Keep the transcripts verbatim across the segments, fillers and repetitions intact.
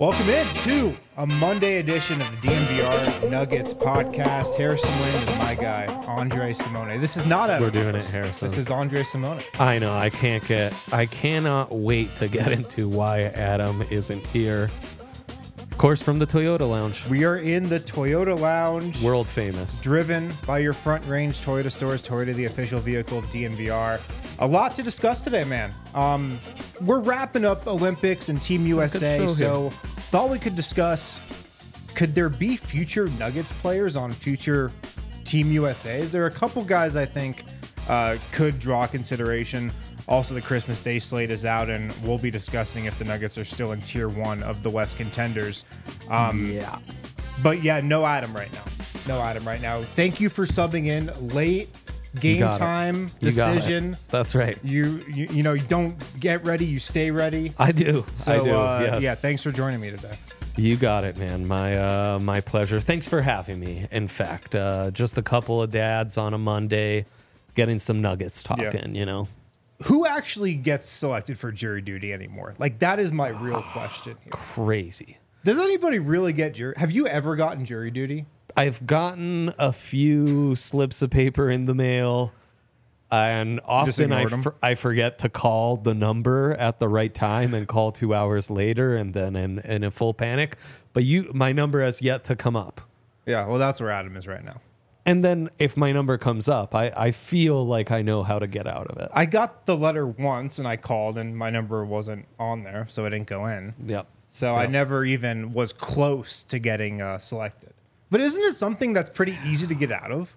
Welcome in to a Monday edition of the D N V R Nuggets podcast. Harrison Lane is my guy, Andre Simone. This is not a. We're doing it, Harrison. This is Andre Simone. I know. I can't get. I cannot wait to get into why Adam isn't here. Of course, from the Toyota Lounge. We are in the Toyota Lounge. World famous. Driven by your Front Range Toyota stores. Toyota, the official vehicle of D N V R. A lot to discuss today, man. Um, we're wrapping up Olympics and Team U S A, so thought we could discuss, could there be future Nuggets players on future Team U S As? There are a couple guys I think uh, could draw consideration. Also, the Christmas Day slate is out, and we'll be discussing if the Nuggets are still in tier one of the West contenders. Um, yeah. But yeah, no Adam right now. No Adam right now. Thank you for subbing in late. Game time you decision. That's right. You, you you know, you don't get ready, you stay ready. I do. So, I do. Uh, yes. Yeah, thanks for joining me today. You got it, man. My uh, my pleasure. Thanks for having me. In fact, uh, just a couple of dads on a Monday, getting some Nuggets talking. Yeah. You know, who actually gets selected for jury duty anymore? Like, that is my real question here. Crazy. Does anybody really get jury? Have you ever gotten jury duty? I've gotten a few slips of paper in the mail, and often I, for, I forget to call the number at the right time and call two hours later, and then in, in a full panic. But you, my number has yet to come up. Yeah, well, that's where Adam is right now. And then if my number comes up, I, I feel like I know how to get out of it. I got the letter once, and I called, and my number wasn't on there, so it didn't go in. Yep. So yep. I never even was close to getting uh, selected. But isn't it something that's pretty easy to get out of?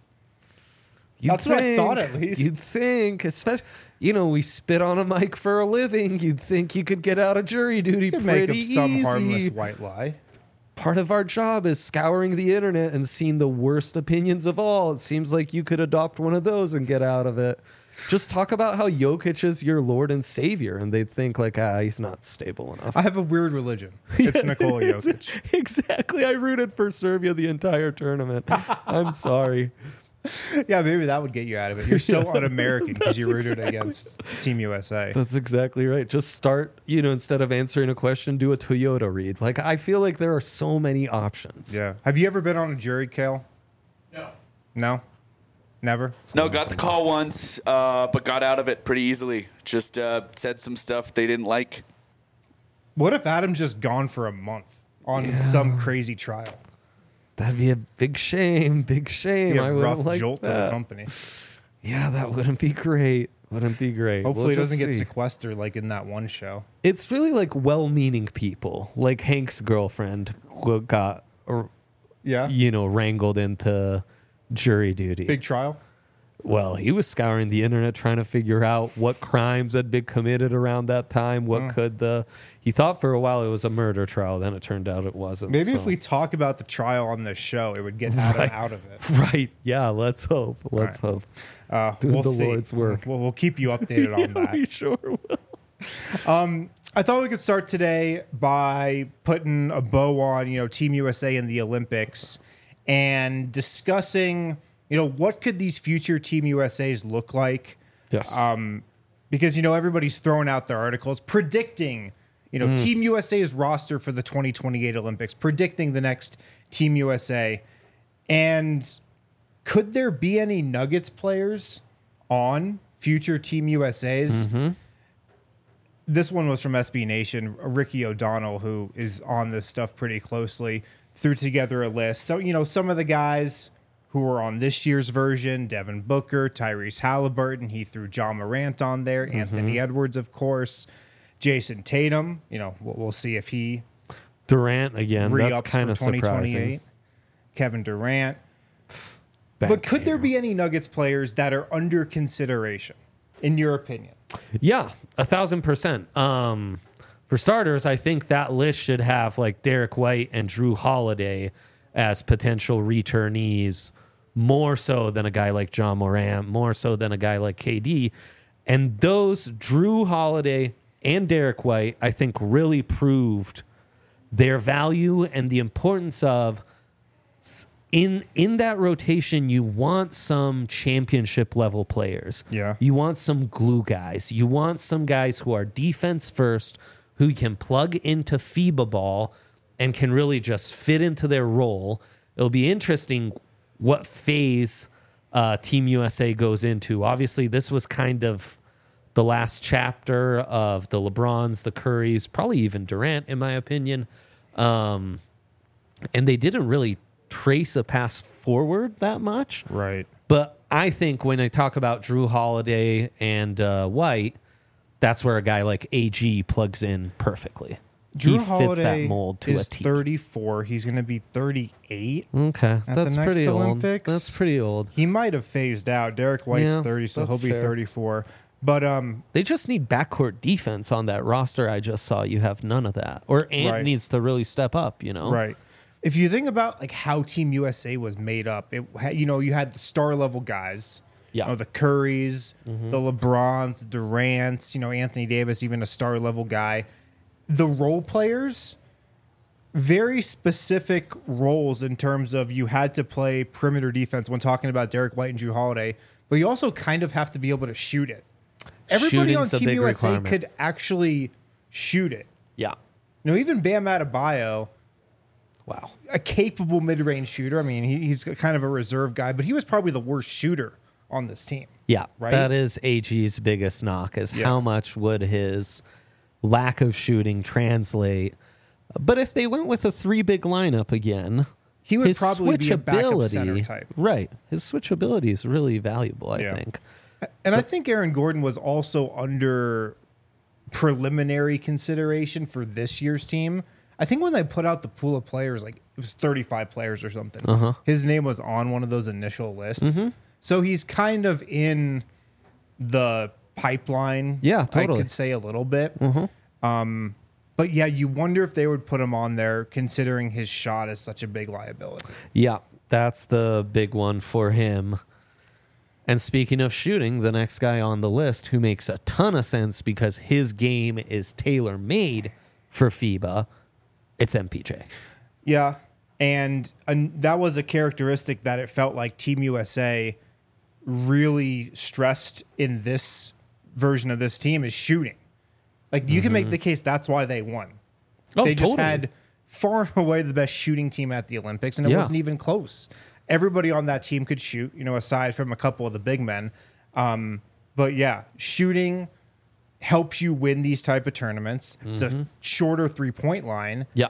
You'd that's think, what I thought, at least. You'd think, especially, you know, we spit on a mic for a living. You'd think you could get out of jury duty you could pretty make up some easy. harmless white lie. Part of our job is scouring the internet and seeing the worst opinions of all. It seems like you could adopt one of those and get out of it. Just talk about how Jokic is your Lord and Savior, and they'd think like, ah, he's not stable enough. I have a weird religion. It's yeah, Nikola Jokic. Exactly. I rooted for Serbia the entire tournament. I'm sorry. Yeah, maybe that would get you out of it. You're so un-American because you rooted exactly. against Team U S A. That's exactly right. Just start, you know, instead of answering a question, do a Toyota read. Like, I feel like there are so many options. Yeah. Have you ever been on a jury, Kale? No. No? Never? No, got the call once, uh, but got out of it pretty easily. Just uh, said some stuff they didn't like. What if Adam's just gone for a month on yeah. some crazy trial? That'd be a big shame, big shame. I would rough like jolt that. to the company. Yeah, that wouldn't be great. Wouldn't be great. Hopefully we'll it doesn't see. get sequestered like in that one show. It's really like well-meaning people, like Hank's girlfriend who got, or, yeah, you know, wrangled into jury duty. Big trial? Well, he was scouring the internet trying to figure out what crimes had been committed around that time. What mm. could the... He thought for a while it was a murder trial. Then it turned out it wasn't. Maybe so. if we talk about the trial on this show, it would get Adam right. out of it. Right. Yeah, let's hope. Let's right. hope. Uh, Do we'll the see. Lord's work. We'll, we'll keep you updated on yeah, that. We sure will. Um, I thought we could start today by putting a bow on, you know, Team U S A in the Olympics and discussing... You know, what could these future Team U S As look like? Yes. Um, because, you know, everybody's throwing out their articles predicting, you know, mm. Team U S A's roster for the twenty twenty-eight Olympics, predicting the next Team U S A. And could there be any Nuggets players on future Team U S As? Mm-hmm. This one was from S B Nation. Ricky O'Donnell, who is on this stuff pretty closely, threw together a list. So, you know, some of the guys... who were on this year's version, Devin Booker, Tyrese Halliburton. He threw John Morant on there. Mm-hmm. Anthony Edwards, of course. Jason Tatum. You know, we'll, we'll see if he... Durant, again. That's kind of surprising. Kevin Durant. Back but could here. there be any Nuggets players that are under consideration, in your opinion? Yeah, a thousand percent. Um, for starters, I think that list should have like Derek White and Drew Holiday as potential returnees, more so than a guy like John Morant, more so than a guy like K D. And those, Drew Holiday and Derek White, I think really proved their value and the importance of, in in that rotation, you want some championship level players. Yeah. You want some glue guys. You want some guys who are defense first, who can plug into FIBA ball and can really just fit into their role. It'll be interesting what phase uh, Team U S A goes into. Obviously, this was kind of the last chapter of the LeBrons, the Currys, probably even Durant, in my opinion. Um, and they didn't really trace a path forward that much. Right. But I think when I talk about Drew Holiday and uh, White, that's where a guy like A G plugs in perfectly. Drew he fits Holiday that mold to is a T. thirty-four. He's going to be thirty-eight. Okay, at that's the next pretty Olympics. old. That's pretty old. He might have phased out. Derek White's Yeah, thirty, so he'll that's be fair. thirty-four. But um, They just need backcourt defense on that roster. I just saw you have none of that. Or Ant Right. needs to really step up. You know, right. If you think about like how Team U S A was made up, it ha- you know you had the star level guys. Yeah. You know, the Currys, Mm-hmm. the LeBrons, the Durants. You know, Anthony Davis, even a star level guy. The role players, very specific roles in terms of you had to play perimeter defense when talking about Derek White and Drew Holiday, but you also kind of have to be able to shoot it. Everybody Shooting's a on Team big U S A requirement. could actually shoot it. Yeah. You know, even Bam Adebayo, Wow. a capable mid-range shooter. I mean, he, he's kind of a reserve guy, but he was probably the worst shooter on this team. Yeah, Right? that is A G's biggest knock is Yeah. how much would his lack of shooting translate. But if they went with a three big lineup again, He would his probably be a backup switchability, center type. right? His switchability is really valuable, I Yeah. think. And I think Aaron Gordon was also under preliminary consideration for this year's team. I think when they put out the pool of players, like it was thirty-five players or something, Uh-huh. his name was on one of those initial lists. Mm-hmm. So he's kind of in the pipeline. Yeah, I totally. could say a little bit. Um, but yeah, you wonder if they would put him on there considering his shot is such a big liability. Yeah, that's the big one for him. And speaking of shooting, the next guy on the list who makes a ton of sense because his game is tailor-made for FIBA, it's M P J. Yeah, and, and that was a characteristic that it felt like Team U S A really stressed in this version of this team is shooting. Like you can make the case that's why they won. Oh, they just totally. had far and away the best shooting team at the Olympics, and it Yeah. wasn't even close. Everybody on that team could shoot, you know, aside from a couple of the big men. Um, but yeah, shooting helps you win these type of tournaments. It's a shorter three point line. Yeah.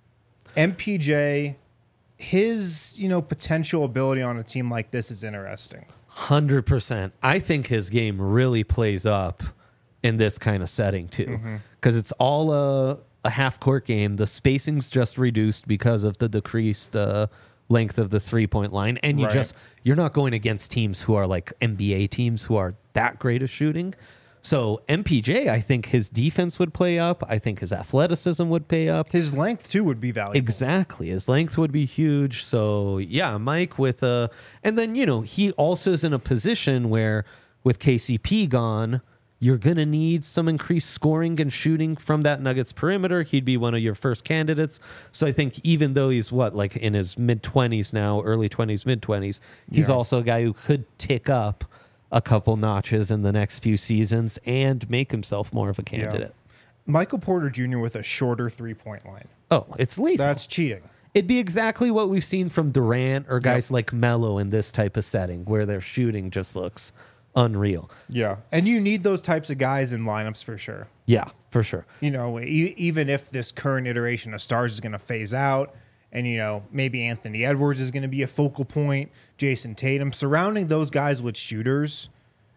M P J, his, you know, potential ability on a team like this is interesting. one hundred percent. I think his game really plays up in this kind of setting too, because it's all a, a half court game. The spacing's just reduced because of the decreased uh, length of the three point line, and you Right. just you're not going against teams who are like N B A teams who are that great at shooting. So M P J, I think his defense would play up. I think his athleticism would pay up. His length too would be valuable. Exactly. His length would be huge. So, yeah, Mike with a. And then, you know, he also is in a position where with K C P gone, you're going to need some increased scoring and shooting from that Nuggets perimeter. He'd be one of your first candidates. So I think even though he's what, like in his mid twenties now, early twenties, mid twenties, he's Yeah. also a guy who could tick up a couple notches in the next few seasons and make himself more of a candidate. Michael Porter Junior with a shorter three point line. Oh, it's lethal. That's cheating. It'd be exactly what we've seen from Durant or guys like Melo in this type of setting where their shooting just looks unreal. Yeah. And you need those types of guys in lineups for sure. Yeah, for sure. You know, e- even if this current iteration of stars is going to phase out and, you know, maybe Anthony Edwards is going to be a focal point, Jason Tatum, surrounding those guys with shooters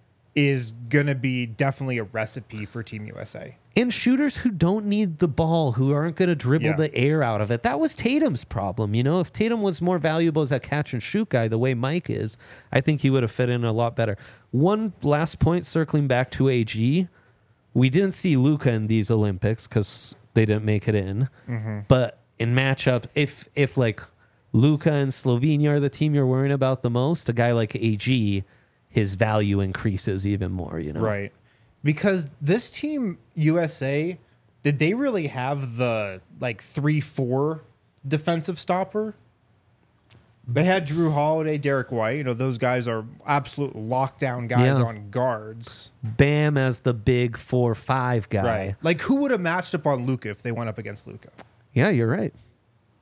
is going to be definitely a recipe for Team U S A. And shooters who don't need the ball, who aren't going to dribble Yeah. the air out of it. That was Tatum's problem. You know, if Tatum was more valuable as a catch and shoot guy, the way Mike is, I think he would have fit in a lot better. One last point, circling back to A G. We didn't see Luka in these Olympics because they didn't make it in. But in matchup, if if like Luka and Slovenia are the team you're worrying about the most, a guy like A G, his value increases even more, you know? Right. Because this team, U S A, did they really have the like three four defensive stopper? They had Drew Holiday, Derek White. You know, those guys are absolute lockdown guys Yeah. on guards. Bam as the big four five guy. Like, who would have matched up on Luka if they went up against Luka? Yeah, you're right.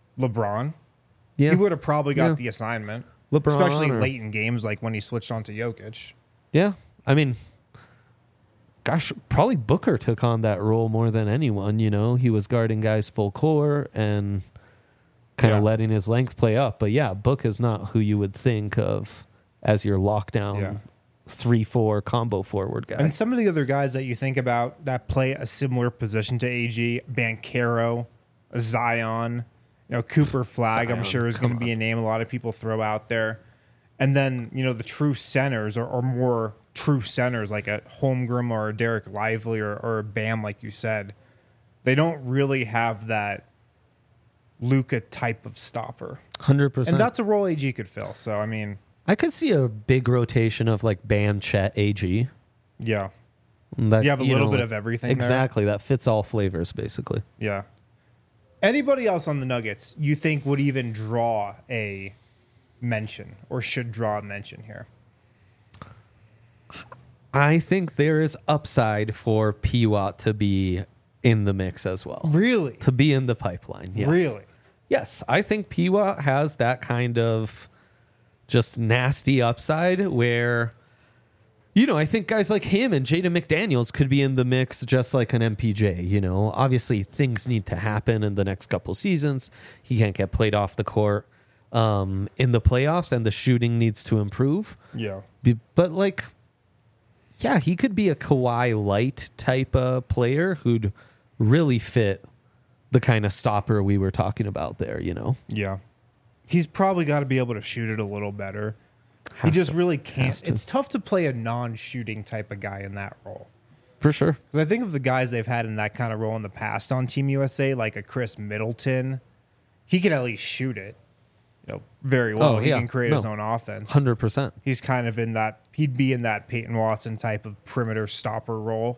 LeBron. Yeah. He would have probably got Yeah. the assignment, LeBron especially or- late in games, like when he switched on to Jokic. Yeah. I mean, gosh, probably Booker took on that role more than anyone. You know, he was guarding guys full court and kind of Yeah. letting his length play up. But yeah, Book is not who you would think of as your lockdown Yeah. three four combo forward guy. And some of the other guys that you think about that play a similar position to A G, Banchero, Zion, you know, Cooper Flag, I'm Zion, sure is come going to be on. a name a lot of people throw out there. And then, you know, the true centers or, or more true centers like a Holmgren or a Derek Lively or, or a Bam, like you said, they don't really have that Luka type of stopper. one hundred percent. And that's a role A G could fill. So, I mean, I could see a big rotation of like Bam, Chet, A G. yeah. That, You have a little know, bit of everything there. Exactly. That fits all flavors, basically. Yeah. Anybody else on the Nuggets you think would even draw a mention or should draw a mention here? I think there is upside for P W A T to be in the mix as well. Really? To be in the pipeline. Yes. Really? Yes. I think P W A T has that kind of just nasty upside where, you know, I think guys like him and Jaden McDaniels could be in the mix just like an M P J. You know, obviously things need to happen in the next couple seasons. He can't get played off the court um, in the playoffs, and the shooting needs to improve. Yeah. Be- But like, yeah, he could be a Kawhi light type of player who'd really fit the kind of stopper we were talking about there, you know? Yeah. He's probably got to be able to shoot it a little better. he Has just to. really can't. Has to. It's tough to play a non-shooting type of guy in that role. For sure. Because I think of the guys they've had in that kind of role in the past on Team U S A, like a Chris Middleton. He can at least shoot it, you know, very well. Oh, he yeah. can create No. his own offense. one hundred percent. He's kind of in that. He'd be in that Peyton Watson type of perimeter stopper role.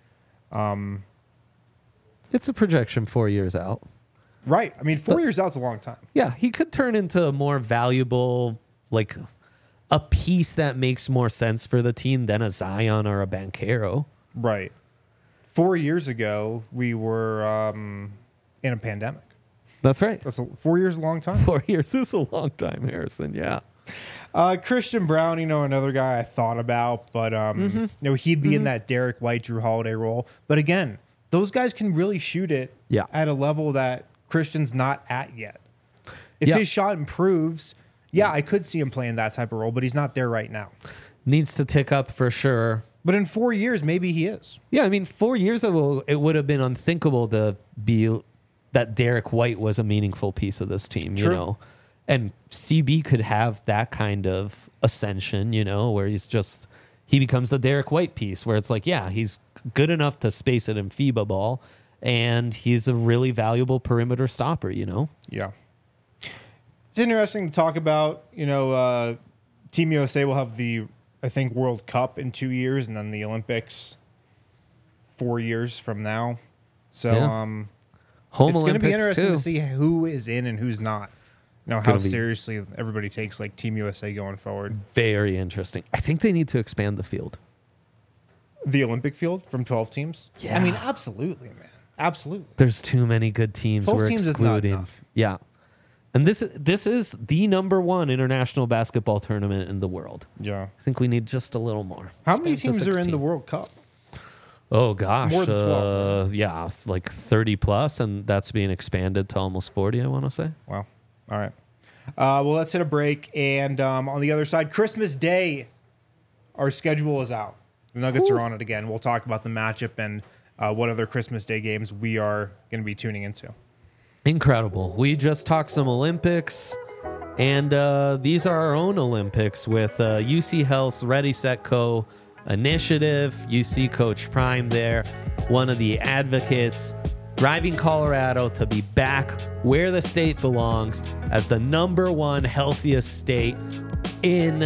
It's a projection four years out. Right. I mean, four years out's a long time. Yeah, he could turn into a more valuable, like a piece that makes more sense for the team than a Zion or a Banchero. Right. Four years ago, we were um, in a pandemic. That's right. That's a, four years is a long time. Four years is a long time, Harrison. Yeah. Uh, Christian Brown, you know, another guy I thought about, but um, Mm-hmm. you know, he'd be in that Derek White, Drew Holiday role. But again, those guys can really shoot it Yeah. at a level that Christian's not at yet. If Yeah. his shot improves, yeah, I could see him playing that type of role, but he's not there right now. Needs to tick up for sure. But in four years, maybe he is. Yeah, I mean, four years ago, it would have been unthinkable to be that Derek White was a meaningful piece of this team, you True. know? And C B could have that kind of ascension, you know, where he's just, he becomes the Derek White piece where it's like, yeah, he's good enough to space it in FIBA ball, and he's a really valuable perimeter stopper, you know? Yeah. It's interesting to talk about, you know, uh, Team U S A will have the, I think, World Cup in two years and then the Olympics four years from now. So Yeah. um, Home it's going to be Olympics, interesting too. to see who is in and who's not. You know, how Gonna be- seriously everybody takes like Team U S A going forward. Very interesting. I think they need to expand the field. The Olympic field from twelve teams? Yeah. I mean, absolutely, man. Absolutely. There's too many good teams twelve we're teams is not excluding. enough. Yeah. And this this is the number one international basketball tournament in the world. Yeah. I think we need just a little more. How many Expand to teams are in the sixteen. World Cup? Oh gosh, More than uh, twelve, yeah, like thirty plus, and that's being expanded to almost forty. I want to say. Wow. All right. Uh, well, let's hit a break. And um, on the other side, Christmas Day, our schedule is out. The Nuggets Ooh. are on it again. We'll talk about the matchup and uh, what other Christmas Day games we are going to be tuning into. Incredible. We just talked some Olympics, and uh, these are our own Olympics with uh, U C Health's Ready, Set, Co. initiative. You see Coach Prime there, one of the advocates, driving Colorado to be back where the state belongs as the number one healthiest state in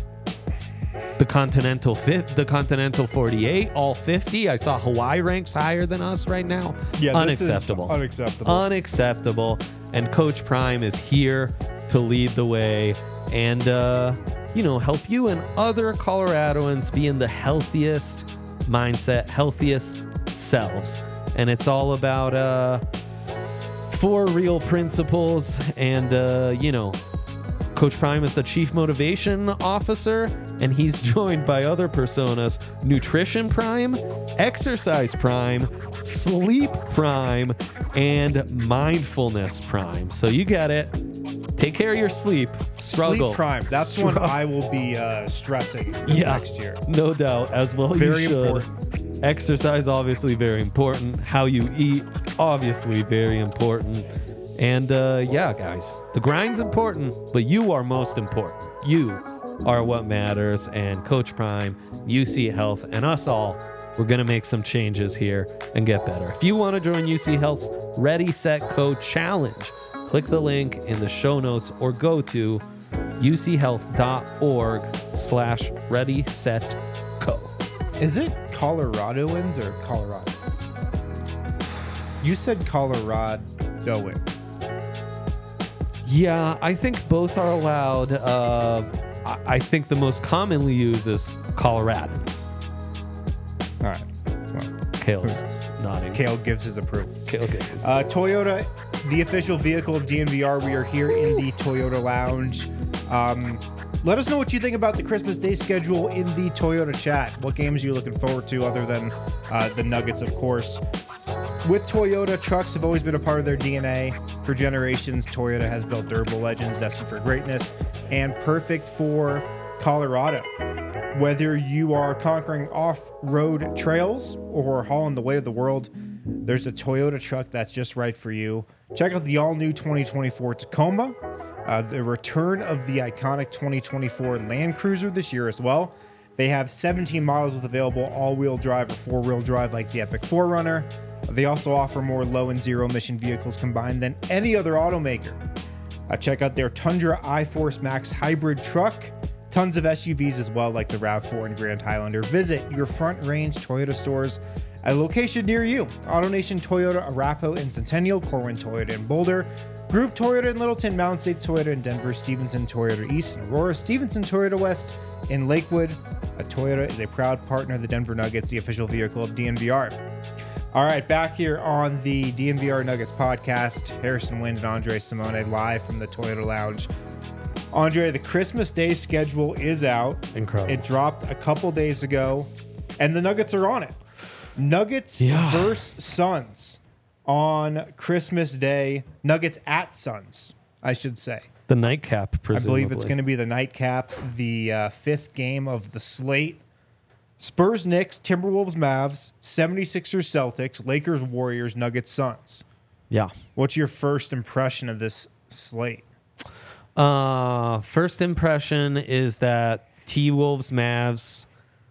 the continental fifth, the continental forty-eight, all fifty. I saw Hawaii ranks higher than us right now. Unacceptable. unacceptable. Unacceptable. And Coach Prime is here to lead the way and, uh, you know, help you and other Coloradoans be in the healthiest mindset, healthiest selves. And it's all about uh, four real principles, and uh, you know, Coach Prime is the chief motivation officer, and he's joined by other personas: Nutrition Prime, Exercise Prime, Sleep Prime, and Mindfulness Prime. So you get it. Take care of your sleep. Struggle. Sleep Prime. That's Struggle. one I will be uh, stressing this Yeah, next year. no doubt. As well, Very you should. important. Exercise, obviously very important. How you eat, obviously very important. And uh, yeah, guys, the grind's important, but you are most important. You are what matters. And Coach Prime, U C Health, and us all, we're going to make some changes here and get better. If you want to join U C Health's Ready, Set, Co Challenge, click the link in the show notes or go to uchealth.org slash ready, set, co. Is it Coloradoans or Coloradans? You said Coloradoans. Yeah, I think both are allowed. Uh, I I think the most commonly used is Coloradans. All right. Well, Kale's nodding. Kale gives his approval. Kale gives his Uh, Toyota, the official vehicle of D N V R. We are here in the Toyota Lounge. Um, let us know what you think about the Christmas Day schedule in the Toyota chat. What games are you looking forward to other than uh, the Nuggets, of course? With Toyota, trucks have always been a part of their D N A. For generations, Toyota has built durable legends destined for greatness and perfect for Colorado. Whether you are conquering off-road trails or hauling the weight of the world, there's a Toyota truck that's just right for you. Check out the all-new twenty twenty-four Tacoma, uh, the return of the iconic twenty twenty-four Land Cruiser this year as well. They have seventeen models with available all-wheel drive or four-wheel drive like the Epic four runner. They also offer more low and zero emission vehicles combined than any other automaker. Uh, check out their Tundra iForce Max hybrid truck. Tons of S U Vs as well, like the RAV four and Grand Highlander. Visit your Front Range Toyota stores at a location near you. AutoNation Toyota, Arapahoe and Centennial, Corwin Toyota in Boulder, Groove Toyota in Littleton, Mountain State Toyota in Denver, Stevenson Toyota East in Aurora, Stevenson Toyota West in Lakewood. A Toyota is a proud partner of the Denver Nuggets, the official vehicle of D N V R. All right, back here on the D N V R Nuggets podcast, Harrison Wind and Andre Simone live from the Toyota Lounge. Andre, the Christmas Day schedule is out. Incredible. It dropped a couple days ago, and the Nuggets are on it. Nuggets Yeah. versus Suns on Christmas Day. Nuggets at Suns, I should say. The nightcap, presumably. I believe it's going to be the nightcap, the uh, fifth game of the slate. Spurs, Knicks, Timberwolves, Mavs, seventy-sixers, Celtics, Lakers, Warriors, Nuggets, Suns. Yeah. What's your first impression of this slate? Uh, first impression is that T-Wolves Mavs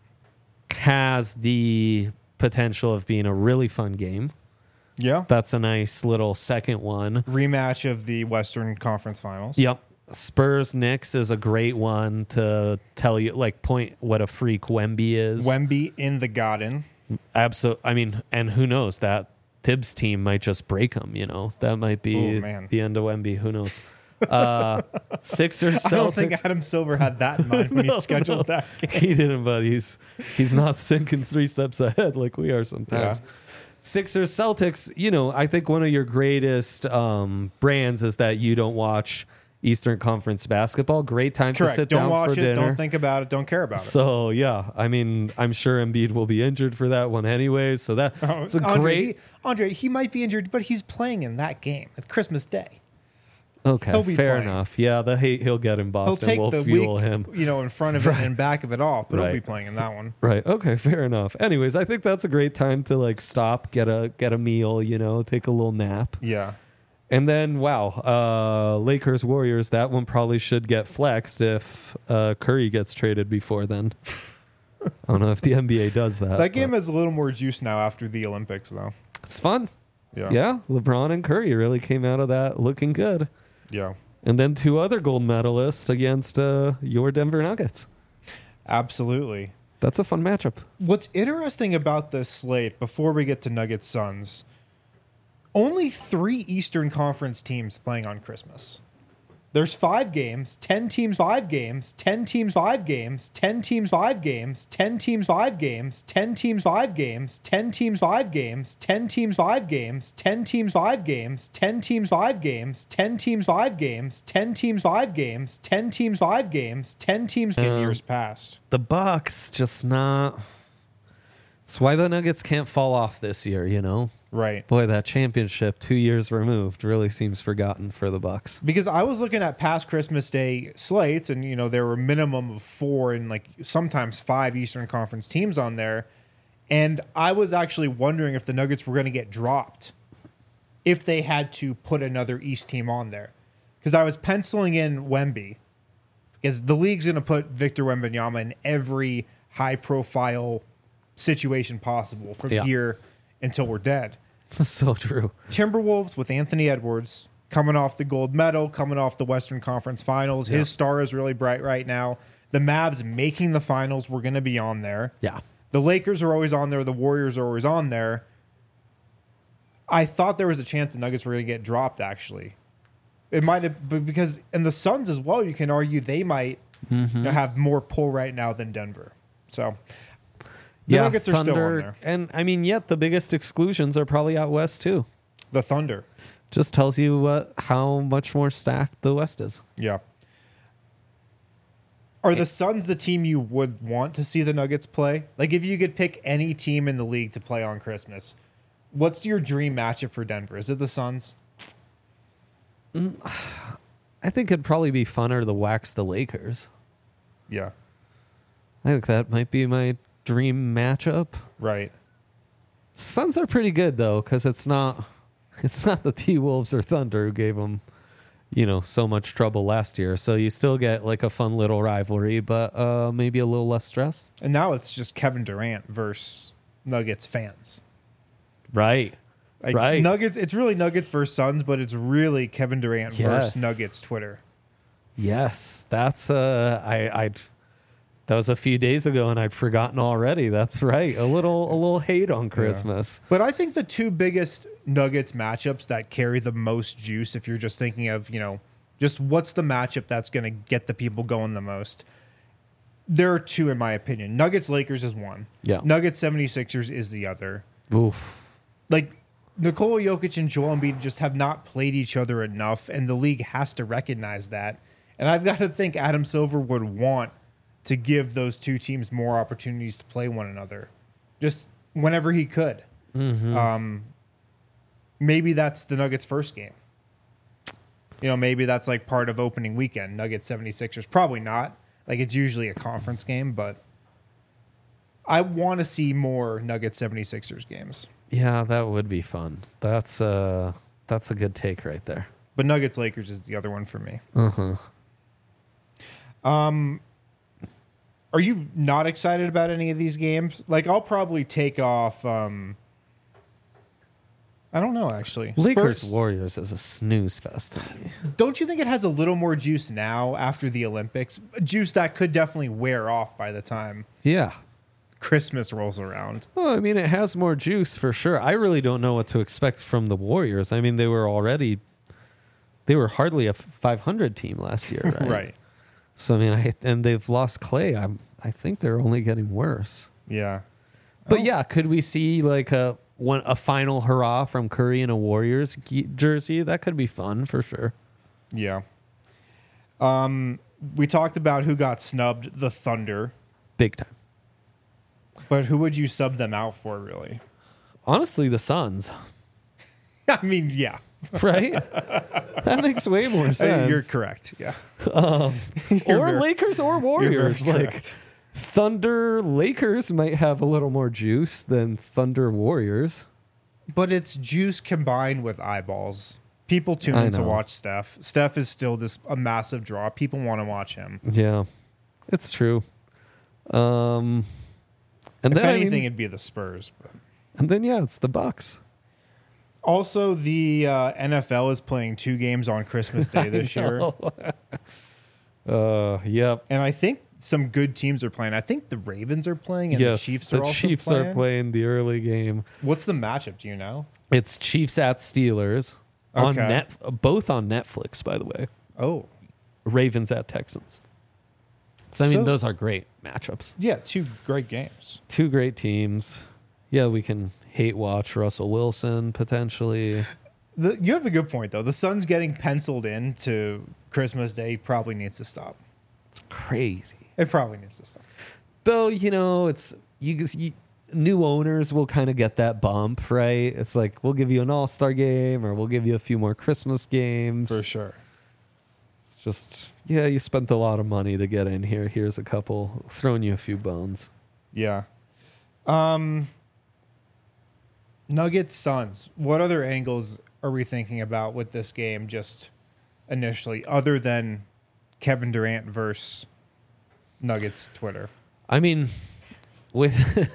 has the potential of being a really fun game. Yeah. That's a nice little second one. Rematch of the Western Conference Finals. Yep. Spurs Knicks is a great one to tell you, like, point what a freak Wemby is. Wemby in the Garden. Absolutely. I mean, and who knows, that Tibbs team might just break them, you know? That might be Ooh, man. the end of Wemby. Who knows? Uh, Sixers, Celtics. I don't think Adam Silver had that in mind when No, he scheduled no. that game. He didn't, but he's he's not thinking three steps ahead like we are sometimes. Yeah. Sixers, Celtics, you know, I think one of your greatest um, brands is that you don't watch Eastern Conference basketball. Great time Correct. to sit don't down watch for it. dinner. Don't think about it. Don't care about it. So, yeah, I mean, I'm sure Embiid will be injured for that one anyways. So that Oh, it's a Andre, great... he, Andre, he might be injured, but he's playing in that game at Christmas Day. Okay, he'll be fair playing. enough. Yeah, the hate he'll get in He'll Boston take will the fuel week, him. you know, in front of it and back of it off, but Right. he'll be playing in that one. Right. Okay. Fair enough. Anyways, I think that's a great time to like stop, get a get a meal, you know, take a little nap, Yeah. and then wow, uh, Lakers Warriors. That one probably should get flexed if uh, Curry gets traded before then. I don't know if the N B A does that. That game but has a little more juice now after the Olympics, though. it's fun. Yeah. Yeah, LeBron and Curry really came out of that looking good, Yeah. and then two other gold medalists against uh, your Denver Nuggets. Absolutely. That's a fun matchup. What's interesting about this slate, before we get to Nuggets Suns, only three Eastern Conference teams playing on Christmas. There's five games, ten teams, five games, ten teams, five games, ten teams, five games, ten teams, five games, ten teams, five games, ten teams, five games, ten teams, five games, ten teams, five games, ten teams, five games, ten teams, five games, ten teams, five games, ten teams, five games, ten teams in years past. The Bucks just not. It's why the Nuggets can't fall off this year, you know? Right. Boy, that championship two years removed really seems forgotten for the Bucks. Because I was looking at past Christmas Day slates, and you know there were a minimum of four and like sometimes five Eastern Conference teams on there, and I was actually wondering if the Nuggets were going to get dropped if they had to put another East team on there. Because I was penciling in Wemby, because the league's going to put Victor Wembanyama in every high-profile situation possible from Yeah. here until we're dead. So true. Timberwolves with Anthony Edwards coming off the gold medal, coming off the Western Conference Finals. His Yeah. star is really bright right now. The Mavs making the finals. We're going to be on there. Yeah. The Lakers are always on there. The Warriors are always on there. I thought there was a chance the Nuggets were going to get dropped, actually. It might have, but because, and the Suns as well, you can argue they might Mm-hmm. you know, have more pull right now than Denver. So, the Yeah, Nuggets are still on Thunder, there. and I mean, yet the biggest exclusions are probably out west too. The Thunder. Just tells you uh, how much more stacked the West is. Yeah. Are the Suns the team you would want to see the Nuggets play? Like, if you could pick any team in the league to play on Christmas, what's your dream matchup for Denver? Is it the Suns? I think it'd probably be funner to wax the Lakers. Yeah. I think that might be my dream matchup. Right. Suns are pretty good though, because it's not it's not the T-Wolves or Thunder who gave them, you know, so much trouble last year. So you still get like a fun little rivalry, but uh, maybe a little less stress. And now it's just Kevin Durant versus Nuggets fans. Right. Like, Right. Nuggets, it's really Nuggets versus Suns, but it's really Kevin Durant Yes. versus Nuggets Twitter. Yes, that's uh, I I'd that was a few days ago, and I'd forgotten already. That's right, a little a little hate on Christmas. But I think the two biggest Nuggets matchups that carry the most juice, if you're just thinking of, you know, just what's the matchup that's going to get the people going the most, there are two, in my opinion. Nuggets Lakers is one. Yeah. Nuggets seventy-sixers is the other. Oof. Like, Nikola Jokic and Joel Embiid just have not played each other enough, and the league has to recognize that. And I've got to think Adam Silver would want to give those two teams more opportunities to play one another, just whenever he could. Mm-hmm. Um, maybe that's the Nuggets' first game. You know, maybe that's like part of opening weekend, Nuggets seventy-sixers. Probably not. Like, it's usually a conference game, but I want to see more Nuggets seventy-sixers games. Yeah, that would be fun. That's uh, that's a good take right there. But Nuggets Lakers is the other one for me. Uh-huh. Um, are you not excited about any of these games? Like, I'll probably take off. Um, I don't know, actually. Lakers Spurs- Warriors is a snooze fest to me. Don't you think it has a little more juice now after the Olympics? Juice that could definitely wear off by the time Yeah. Christmas rolls around. Well, I mean, it has more juice for sure. I really don't know what to expect from the Warriors. I mean, they were already, they were hardly a five hundred team last year, right? Right. So I mean, I and they've lost Clay. I'm, I think they're only getting worse. Yeah. But Oh. yeah, could we see like a one a final hurrah from Curry in a Warriors ge- jersey? That could be fun for sure. Yeah. Um, we talked about who got snubbed, the Thunder. Big time. But who would you sub them out for, really? Honestly, the Suns, I mean, yeah. right? That makes way more sense. You're correct. Yeah. or very- Lakers or You're very Warriors. Like correct. Thunder Lakers might have a little more juice than Thunder Warriors. But it's juice combined with eyeballs. People tune I in to know. watch Steph. Steph is still this a massive draw. People want to watch him. Yeah, it's true. Um, and If then I anything, mean- it'd be the Spurs. But. and then yeah, it's the Bucks. Also, the uh, N F L is playing two games on Christmas Day this year. Uh, yep. And I think some good teams are playing. I think the Ravens are playing and yes, the Chiefs are the also Chiefs playing. are playing the early game. What's the matchup? Do you know? It's Chiefs at Steelers on Okay. net, both on Netflix, by the way. Oh, Ravens at Texans. So, I mean, So- those are great matchups. Yeah, two great games. Two great teams. Yeah, we can hate watch Russell Wilson potentially. The, you have a good point, though. The Suns getting penciled in to Christmas Day probably needs to stop. It's crazy. It probably needs to stop. Though, you know, it's you, you new owners will kind of get that bump, right? It's like, we'll give you an all-star game or we'll give you a few more Christmas games. For sure. It's just, yeah, you spent a lot of money to get in here. Here's a couple, throwing you a few bones. Yeah. Um, Nuggets, Suns. What other angles are we thinking about with this game just initially, other than Kevin Durant versus Nuggets Twitter? I mean, with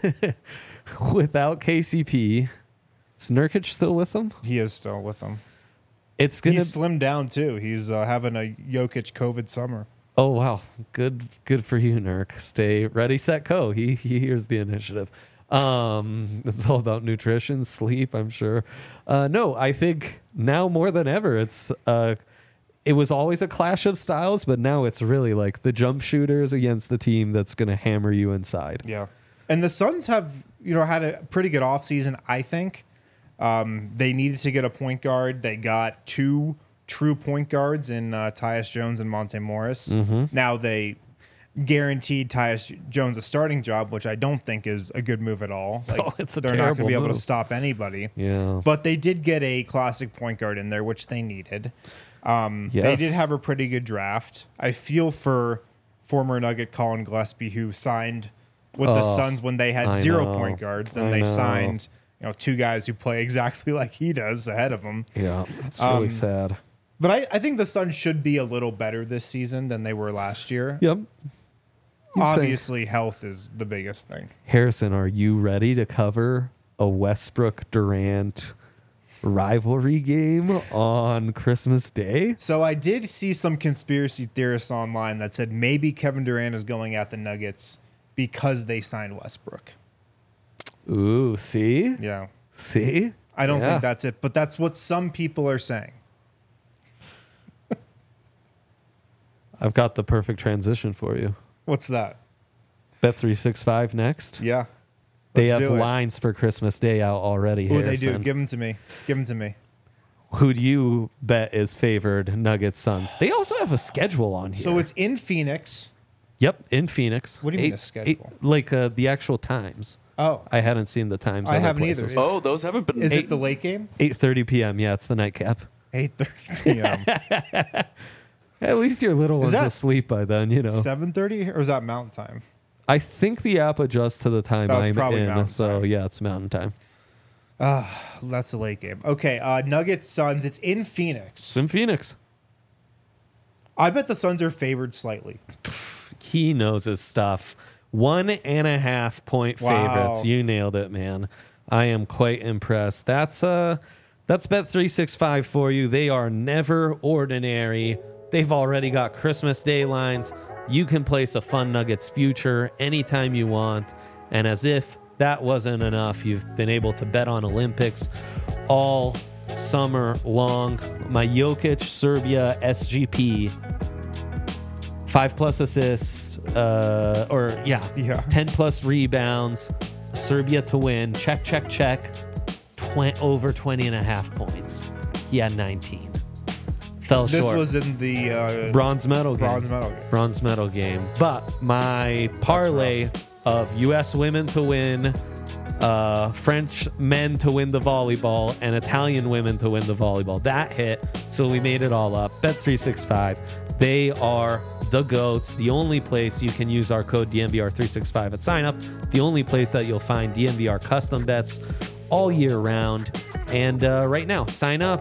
without K C P, is Nurkic still with them? He is still with them. It's gonna. He's slimmed down too. He's uh, having a Jokic COVID summer. Oh wow, good, good for you, Nurk. Stay ready, set, go. He he hears the initiative. Um, it's all about nutrition, sleep. I'm sure. Uh, no, I think now more than ever, it's uh, it was always a clash of styles, but now it's really like the jump shooters against the team that's going to hammer you inside. Yeah. And the Suns have, you know, had a pretty good offseason, I think. Um, they needed to get a point guard. They got two true point guards in uh, Tyus Jones and Monte Morris. Mm-hmm. Now they guaranteed Tyus Jones a starting job, which I don't think is a good move at all. Like, Oh, it's a they're not going to terrible be able move. to stop anybody. Yeah. But they did get a classic point guard in there, which they needed. Um, They Yes. did have a pretty good draft. I feel for former Nugget Colin Gillespie, who signed with the Oh, Suns when they had I zero know. point guards, and I they know. signed, you know, two guys who play exactly like he does ahead of him. Yeah, it's really Um, sad. But I, I think the Suns should be a little better this season than they were last year. Yep. You think- Obviously, health is the biggest thing. Harrison, are you ready to cover a Westbrook Durant rivalry game on Christmas Day? So I did see some conspiracy theorists online that said maybe Kevin Durant is going at the Nuggets because they signed Westbrook. Ooh, see? Yeah. See? I don't Yeah. think that's it, but that's what some people are saying. I've got the perfect transition for you. What's that? Bet three sixty-five next. Yeah. They Let's have do it. lines for Christmas Day out already. Oh, they do. Harrison. Give them to me. Give them to me. Who do you bet is favored? Nuggets, Suns. They also have a schedule on here. So it's in Phoenix. Yep, in Phoenix. What do you mean Eight- a schedule? eight- like uh, the actual times. Oh. I hadn't seen the times. I other haven't either. places. It's- Oh, those haven't been. Is Eight- it the late game? eight thirty p.m. Yeah, it's the nightcap. eight thirty p.m. At least your little one's that- asleep by then, you know. seven thirty? Or is that mountain time? I think the app adjusts to the time That was I'm probably in. mountain So, time. yeah, it's mountain time. That's the late game. Okay. Uh, Nuggets, Suns. It's in Phoenix. It's in Phoenix. I bet the Suns are favored slightly. He knows his stuff. One and a half point Wow. favorites. You nailed it, man. I am quite impressed. That's uh that's Bet three sixty-five for you. They are never ordinary. They've already got Christmas Day lines. You can place a fun Nuggets future anytime you want. And as if that wasn't enough, you've been able to bet on Olympics all summer long. My Jokic Serbia S G P. Five plus assists, uh, or yeah, Yeah. ten plus rebounds, Serbia to win. Check, check, check. Tw- over twenty and a half points. He had nineteen. Fell This short. was in the uh, bronze medal game. bronze medal game. Bronze medal game. But my parlay of U S women to win, uh, French men to win the volleyball, and Italian women to win the volleyball. That hit. So we made it all up. Bet three sixty-five. They are the GOATs. The only place you can use our code D N V R three sixty-five at sign up. The only place that you'll find D N V R custom bets all year round. And uh, right now, sign up.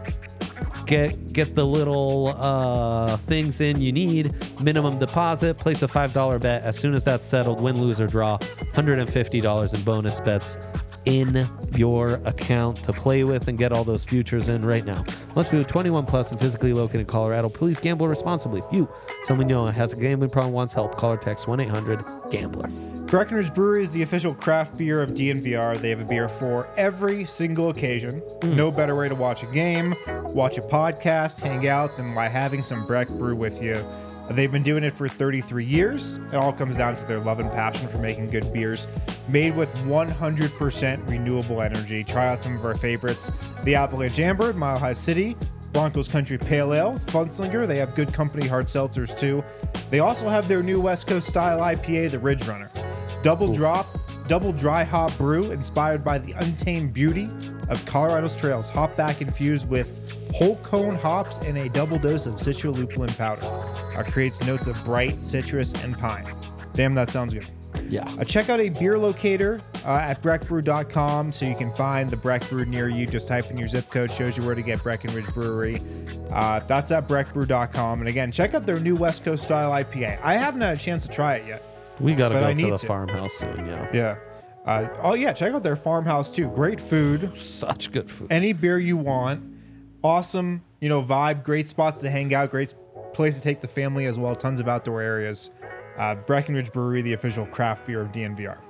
Get get the little uh, things in you need. Minimum deposit. Place a five dollar bet. As soon as that's settled, win, lose, or draw, one hundred fifty dollars in bonus bets in your account to play with and get all those futures in right now. Must be twenty-one plus and physically located in Colorado. Please gamble responsibly. If you, someone you know, has a gambling problem, wants help, call or text one eight hundred gambler. Breckenridge Brewery is the official craft beer of D N V R. They have a beer for every single occasion. Mm. No better way to watch a game, watch a podcast, hang out than by having some Breck Brew with you. They've been doing it for thirty-three years. It all comes down to their love and passion for making good beers made with one hundred percent renewable energy. Try out some of our favorites. The Avalanche Amber, Mile High City, Broncos Country Pale Ale, Funslinger. They have Good Company hard seltzers too. They also have their new West Coast style I P A, the Ridge Runner. Double Ooh. drop, double dry hop brew inspired by the untamed beauty of Colorado's trails. Hop back infused with whole cone hops and a double dose of citrulupulin powder. Uh, creates notes of bright citrus and pine. Damn, that sounds good. Yeah. Uh, check out a beer locator uh, at breck brew dot com so you can find the Breck Brew near you. Just type in your zip code, shows you where to get Breckenridge Brewery. Uh, that's at breck brew dot com. And again, check out their new West Coast style I P A. I haven't had a chance to try it yet. We got to go I to the to. farmhouse soon, yeah. Yeah. Uh, oh, yeah, check out their farmhouse too. Great food. Such good food. Any beer you want. Awesome, you know, vibe. Great spots to hang out. Great place to take the family as well. Tons of outdoor areas. Uh, Breckenridge Brewery, the official craft beer of D N V R.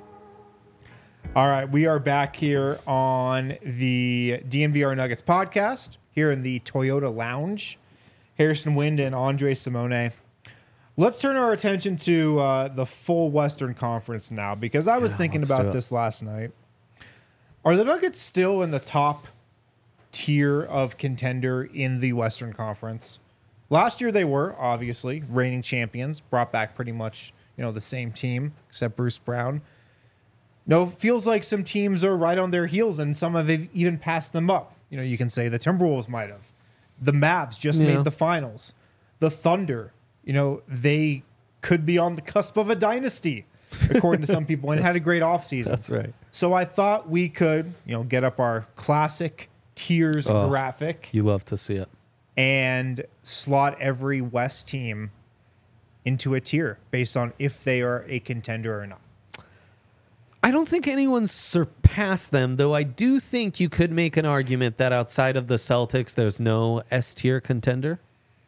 All right, we are back here on the D N V R Nuggets podcast here in the Toyota Lounge. Harrison Wind and Andre Simone. Let's turn our attention to uh, the full Western Conference now, because I was yeah, thinking about this last night. Are the Nuggets still in the top tier of contender in the Western Conference? Last year they were, obviously, reigning champions, brought back pretty much, you know, the same team, except Bruce Brown. No, feels like some teams are right on their heels, and some have even passed them up. You know, you can say the Timberwolves might have. The Mavs just yeah. made the finals. The Thunder, you know, they could be on the cusp of a dynasty, according to some people, and had a great offseason. That's right. So I thought we could, you know, get up our classic tiers oh, graphic. You love to see it. And slot every West team into a tier based on if they are a contender or not. I don't think anyone's surpassed them, though I do think you could make an argument that outside of the Celtics, there's no S-tier contender.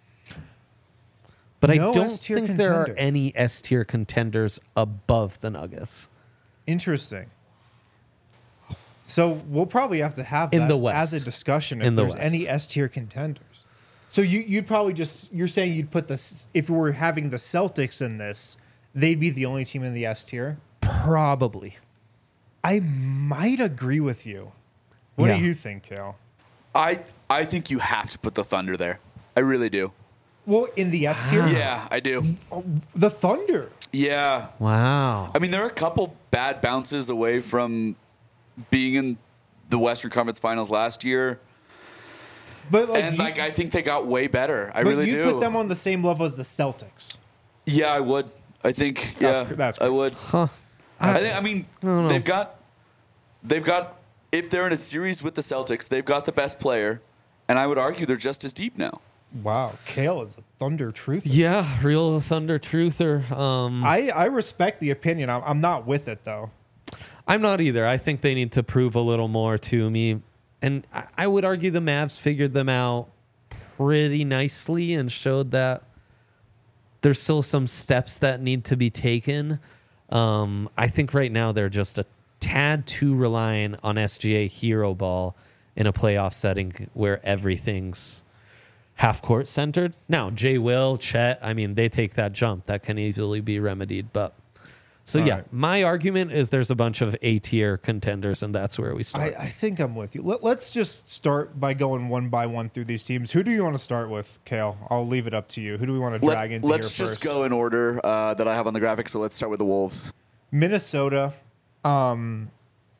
But no I don't S-tier think contender. There are any S-tier contenders above the Nuggets. Interesting. So we'll probably have to have in that the West. As a discussion if in the there's West. Any S-tier contenders. So you, you'd probably just, you're saying you'd put this, if we were having the Celtics in this, they'd be the only team in the S-tier? Probably. I might agree with you. What yeah. do you think, Kale? I I think you have to put the Thunder there. I really do. Well, in the S tier? Yeah, I do. The Thunder. Yeah. Wow. I mean, there are a couple bad bounces away from being in the Western Conference Finals last year. But like and you, like I think they got way better. I but really you'd do. put them on the same level as the Celtics. Yeah, I would. I think That's, yeah, that's I would. Huh. I think I mean I they've got they've got if they're in a series with the Celtics, they've got the best player, and I would argue they're just as deep now. Wow, Kale is a Thunder truther. Yeah, real Thunder truther. Um, I, I respect the opinion. I'm, I'm not with it, though. I'm not either. I think they need to prove a little more to me. And I, I would argue the Mavs figured them out pretty nicely and showed that there's still some steps that need to be taken. Um, I think right now they're just a tad too reliant on S G A hero ball in a playoff setting where everything's half-court centered. Now, Jay Will, Chet, I mean, they take that jump. That can easily be remedied. But So, All yeah, right. my argument is there's a bunch of A-tier contenders, and that's where we start. I, I think I'm with you. Let, let's just start by going one by one through these teams. Who do you want to start with, Kale? I'll leave it up to you. Who do we want to drag Let, into let's here just first? go in order uh, that I have on the graphic, so let's start with the Wolves. Minnesota. Um,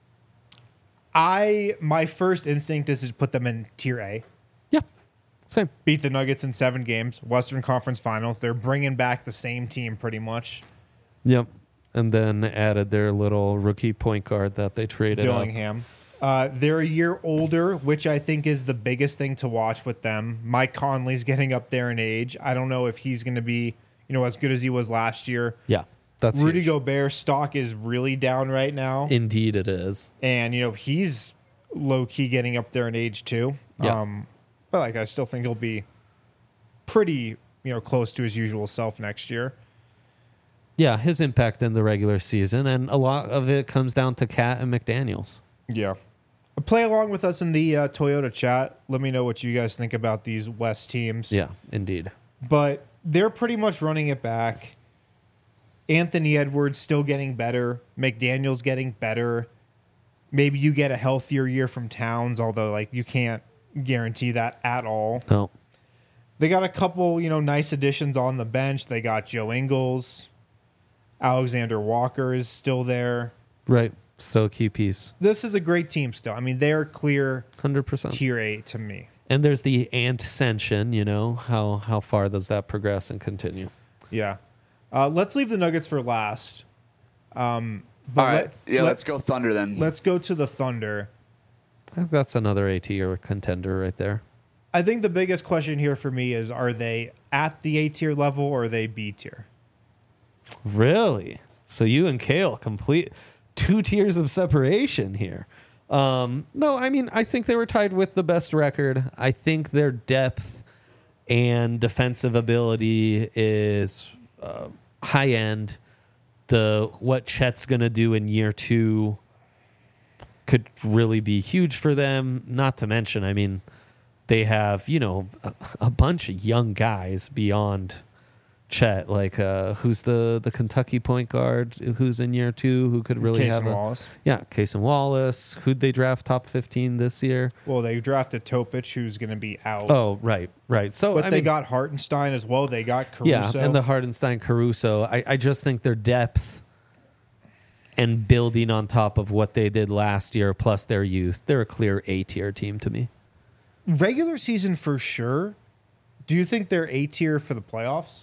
I my first instinct is to put them in Tier A. Yeah, same. Beat the Nuggets in seven games. Western Conference Finals. They're bringing back the same team pretty much. Yep. And then added their little rookie point guard that they traded Dillingham. Uh, they're a year older, which I think is the biggest thing to watch with them. Mike Conley's getting up there in age. I don't know if he's going to be, you know, as good as he was last year. Yeah. That's Rudy huge. Gobert's stock is really down right now. Indeed, it is. And, you know, he's low key getting up there in age too. Yeah. Um, but like, I still think he'll be pretty, you know, close to his usual self next year. Yeah, his impact in the regular season, and a lot of it comes down to Cat and McDaniels. Yeah. Play along with us in the uh, Toyota chat. Let me know what you guys think about these West teams. Yeah, indeed. But they're pretty much running it back. Anthony Edwards still getting better. McDaniel's getting better. Maybe you get a healthier year from Towns, although like you can't guarantee that at all. No. They got a couple, you know, nice additions on the bench. They got Joe Ingles. Alexander Walker is still there. Right. Still a key piece. This is a great team still. I mean, they're clear one hundred percent. tier eight to me. And there's the ascension, you know, how how far does that progress and continue? Yeah. Uh, let's leave the Nuggets for last. Um, but All right. let's, yeah, let, let's go Thunder then. Let's go to the Thunder. I think that's another A tier contender right there. I think the biggest question here for me is, are they at the A tier level or are they B tier? Really? So you and Kale complete two tiers of separation here. Um, no, I mean, I think they were tied with the best record. I think their depth and defensive ability is uh, high end. The what Chet's going to do in year two could really be huge for them. Not to mention, I mean, they have, you know, a, a bunch of young guys beyond Chet, like uh, who's the, the Kentucky point guard who's in year two who could really Case have and a Wallace. yeah, Casey Wallace. Who'd they draft top fifteen this year? Well, they drafted Topic, who's going to be out. Oh, right, right. So but I they mean, got Hartenstein as well. They got Caruso. yeah, and the Hardenstein Caruso. I, I just think their depth and building on top of what they did last year, plus their youth, they're a clear A tier team to me. Regular season for sure. Do you think they're A tier for the playoffs?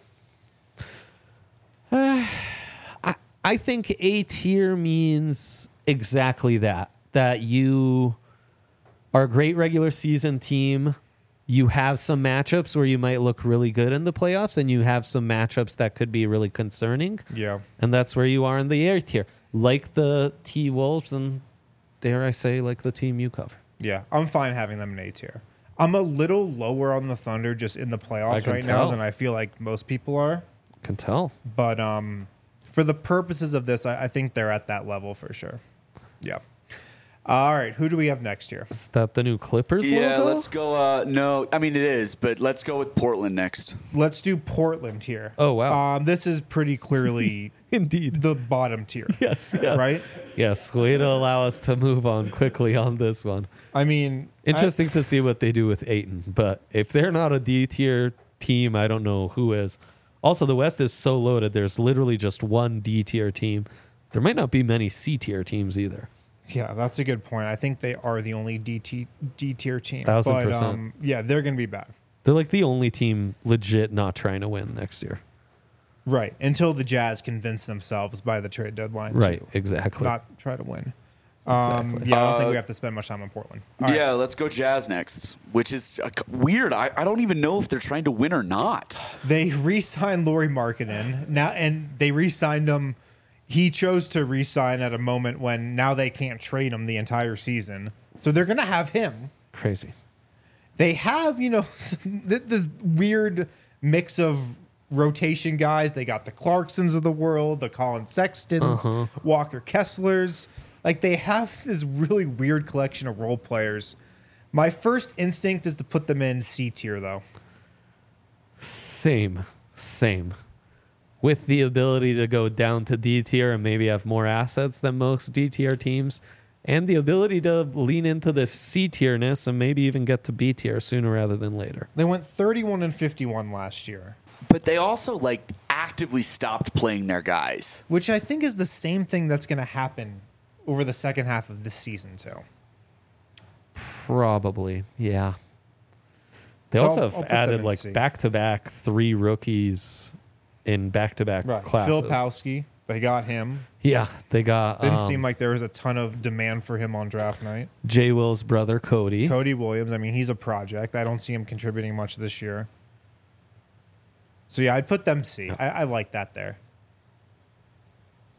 Uh, I, I think A tier means exactly that. That you are a great regular season team. You have some matchups where you might look really good in the playoffs, and you have some matchups that could be really concerning. Yeah. And that's where you are in the A tier. Like the T-Wolves and, dare I say, like the team you cover. Yeah, I'm fine having them in A tier. I'm a little lower on the Thunder just in the I playoffs can right tell. now than I feel like most people are. Can tell. But um, for the purposes of this, I, I think they're at that level for sure. Yeah. All right, who do we have next year? Is that the new Clippers yeah, logo? let's go. Uh, no, I mean it is, but let's go with Portland next. Let's do Portland here. Oh, wow. Um, this is pretty clearly Indeed. the bottom tier. Yes, yes. Right? Yes, way to allow us to move on quickly on this one. I mean, Interesting to see what they do with Ayton, but if they're not a D tier team, I don't know who is. Also, the West is so loaded, there's literally just one D tier team. There might not be many C tier teams either. Yeah, that's a good point. I think they are the only D T D tier team. Thousand but, percent. Um, yeah, they're going to be bad. They're like the only team legit not trying to win next year. Right. Until the Jazz convince themselves by the trade deadline Right, to exactly. not try to win. Um, Exactly. Yeah, I don't Uh, think we have to spend much time on Portland. All right. Yeah, let's go Jazz next, which is uh, weird. I, I don't even know if they're trying to win or not. They re-signed Lauri Markkanen now, and they re-signed him. He chose to re-sign at a moment when now they can't trade him the entire season, so they're going to have him. Crazy. They have, you know, the, the weird mix of rotation guys. They got the Clarksons of the world, the Colin Sextons, Uh-huh. Walker Kesslers. Like, they have this really weird collection of role players. My first instinct is to put them in C tier, though. Same. Same. With the ability to go down to D tier and maybe have more assets than most D tier teams, and the ability to lean into this C tierness and maybe even get to B tier sooner rather than later. They went thirty-one and fifty-one last year, But they also like actively stopped playing their guys. which I think is the same thing that's going to happen over the second half of this season, too. Probably, yeah. They So also I'll- have I'll put them added in like C. back-to-back three rookies in back-to-back classes. Phil Pawski, they got him. Yeah, they got Didn't um, seem like there was a ton of demand for him on draft night. J. Will's brother Cody. Cody Williams, I mean, he's a project. I don't see him contributing much this year. So, yeah, I'd put them C. I, I like that there.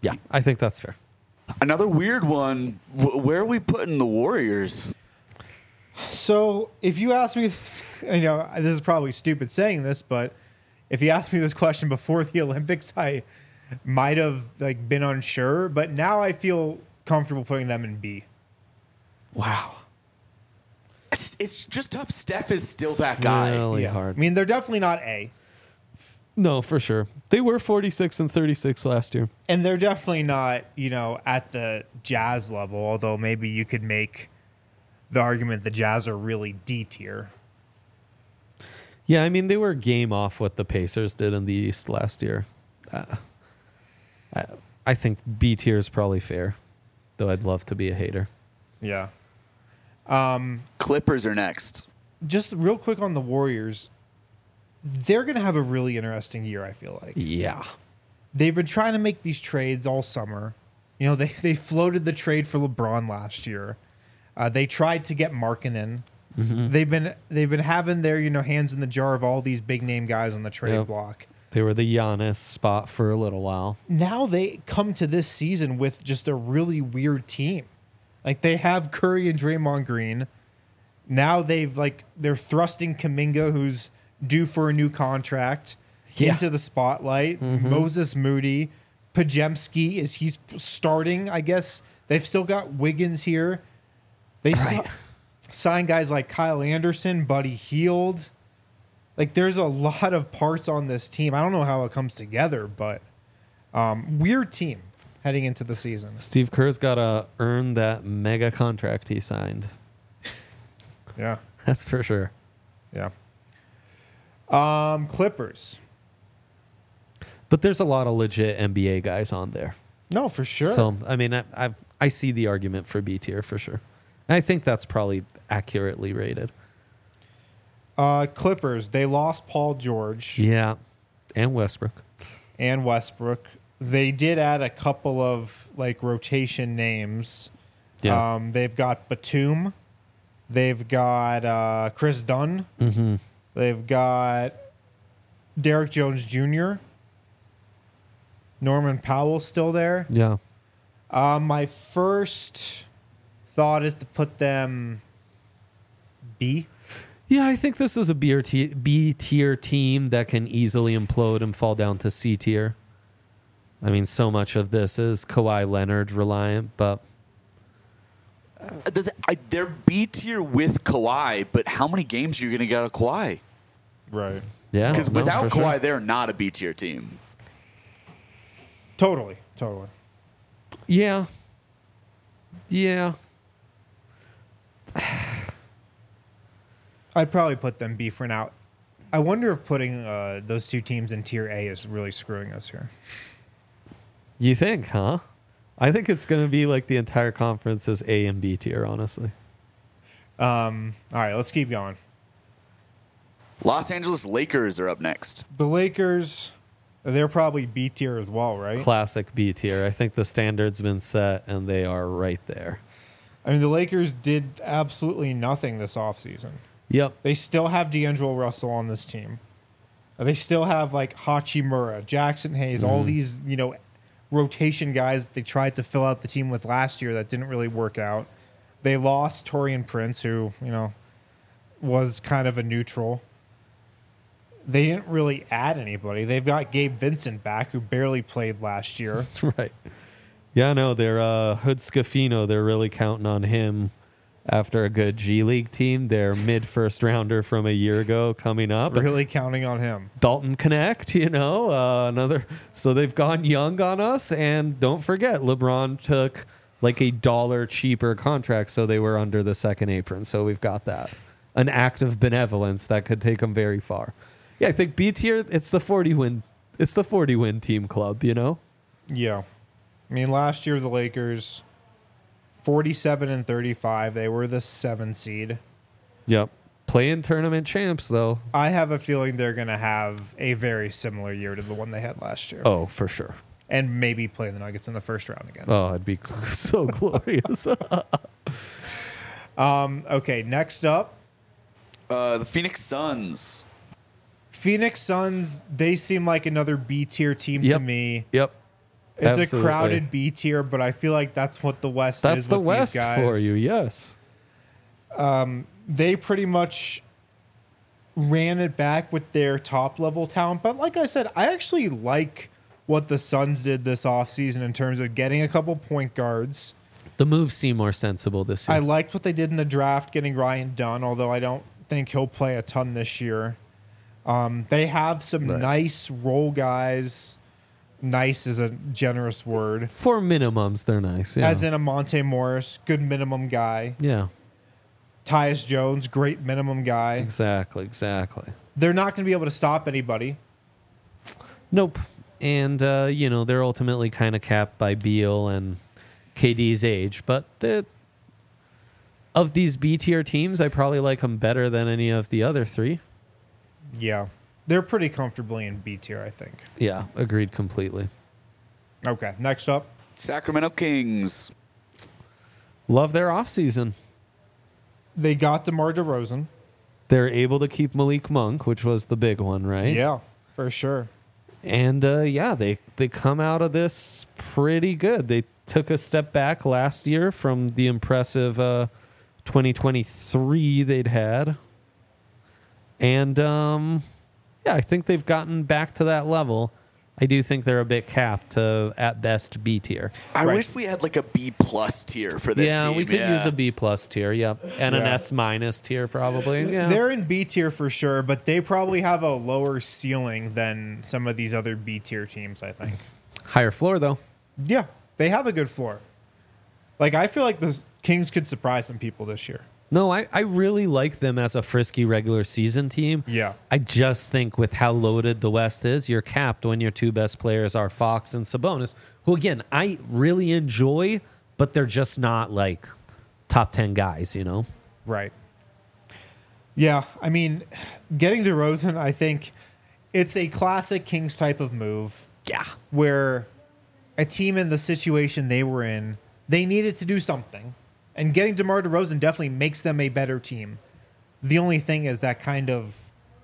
Yeah, I think that's fair. Another weird one. W- where are we putting the Warriors? So if you ask me this, you know, this is probably stupid saying this, but if you asked me this question before the Olympics, I might have like been unsure, but now I feel comfortable putting them in B. Wow. It's, it's just tough. Steph is still that guy. Really Yeah. hard. I mean, they're definitely not A, No, for sure. They were forty-six and thirty-six last year. and they're definitely not, you know, at the Jazz level, although maybe you could make the argument the Jazz are really D tier. Yeah, I mean, they were game off what the Pacers did in the East last year. Uh, I, I think B tier is probably fair, though I'd love to be a hater. Yeah. Clippers are next. Just real quick on the Warriors, they're going to have a really interesting year, I feel like. Yeah. They've been trying to make these trades all summer. You know, they, they floated the trade for LeBron last year. Uh, they tried to get Markkanen. Mm-hmm. They've been they've been having their, you know, hands in the jar of all these big name guys on the trade Yep. block. They were the Giannis spot for a little while. Now they come to this season with just a really weird team. Like they have Curry and Draymond Green. Now they've like they're thrusting Kuminga, who's due for a new contract, Yeah. into the spotlight. Moses Moody, Pajemski is he's starting. I guess they've still got Wiggins here. They Right. si- sign guys like Kyle Anderson, Buddy Hield. Like there's a lot of parts on this team. I don't know how it comes together, but um, weird team heading into the season. Steve Kerr's got to earn that mega contract he signed. Yeah, That's for sure. yeah. Um, Clippers. But there's a lot of legit N B A guys on there. No, for sure. So, I mean, I, I I see the argument for B tier for sure. And I think that's probably accurately rated. uh, Clippers. They lost Paul George Yeah. And Westbrook. and Westbrook. They did add a couple of like rotation names. Yeah. Um, they've got Batum. They've got uh, Chris Dunn. Mm-hmm. They've got Derek Jones Junior Norman Powell's still there. Yeah. Uh, my first thought is to put them B. Yeah, I think this is a B tier, B tier team that can easily implode and fall down to C tier. I mean, so much of this is Kawhi Leonard reliant, but Uh, th- th- I- They're B tier with Kawhi, but how many games are you going to get out of Kawhi? Right. yeah. Because no, without for Kawhi, sure. they're not a B tier team. Totally. Totally. Yeah. Yeah. I'd probably put them B for now. I wonder if putting uh, those two teams in tier A is really screwing us here. You think, huh? I think it's going to be like the entire conference is A and B tier, honestly. Um, all right, let's keep going. Los Angeles Lakers are up next. The Lakers, they're probably B tier as well, right? Classic B tier. I think the standard's been set and they are right there. I mean, the Lakers did absolutely nothing this offseason. Yep. They still have D'Angelo Russell on this team. They still have like Hachimura, Jackson Hayes, all these, you know, rotation guys that they tried to fill out the team with last year that didn't really work out. They lost Torian Prince, who, you know, was kind of a neutral. They didn't really add anybody. They've got Gabe Vincent back, who barely played last year. Right. Yeah, no, they're uh, Hood Scafino. They're really counting on him after a good G League team. Their mid first rounder from a year ago coming up. Really counting on him. Dalton Connect, you know, uh, another. So they've gone young on us. And don't forget, LeBron took like a dollar cheaper contract. So they were under the second apron. So we've got that. An act of benevolence that could take them very far. Yeah, I think B tier, it's the forty win. It's the forty win team club, you know? Yeah. I mean, last year, the Lakers, forty-seven and thirty-five, they were the seven seed. Yep. Play-in tournament champs, though. I have a feeling they're going to have a very similar year to the one they had last year. Oh, for sure. And maybe play the Nuggets in the first round again. Oh, it'd be so glorious. Um, okay, next up, Uh, the Phoenix Suns. Phoenix Suns, they seem like another B tier team to Yep. me. Yep. It's Absolutely. a crowded B tier, but I feel like that's what the West That's is the with West these guys. for you, yes. They pretty much ran it back with their top level talent. But like I said, I actually like what the Suns did this offseason in terms of getting a couple point guards. The moves seem more sensible this year. I liked what they did in the draft, getting Ryan Dunn, although I don't think he'll play a ton this year. Um, they have some Right. nice role guys. Nice is a generous word. For minimums, they're nice. Yeah. As in a Monte Morris, good minimum guy. yeah, Tyus Jones, great minimum guy. exactly, exactly. They're not going to be able to stop anybody. Nope. And, uh, you know, they're ultimately kind of capped by Beal and K D's age. But the, of these B-tier teams, I probably like them better than any of the other three. Yeah. They're pretty comfortably in B tier, I think. Yeah, agreed completely. Okay, next up. Sacramento Kings. Love their offseason. They got DeMar DeRozan. They're able to keep Malik Monk, which was the big one, right? Yeah, for sure. And, uh, yeah, they, they come out of this pretty good. They took a step back last year from the impressive uh, twenty twenty-three they'd had. And, um, yeah, I think they've gotten back to that level. I do think they're a bit capped to, at best, B tier. I Right. wish we had like a B plus tier for this yeah, team. we could yeah. use a B plus tier, yep. And an Yeah. S minus tier, probably. Yeah. They're in B tier for sure, but they probably have a lower ceiling than some of these other B tier teams, I think. Higher floor, though. Yeah, they have a good floor. Like, I feel like the Kings could surprise some people this year. No, I, I really like them as a frisky regular season team. Yeah. I just think with how loaded the West is, you're capped when your two best players are Fox and Sabonis, who, again, I really enjoy, but they're just not like top ten guys, you know? Right. Yeah, I mean, getting DeRozan, I think it's a classic Kings type of move Yeah. where a team in the situation they were in, they needed to do something. And getting DeMar DeRozan definitely makes them a better team. The only thing is that kind of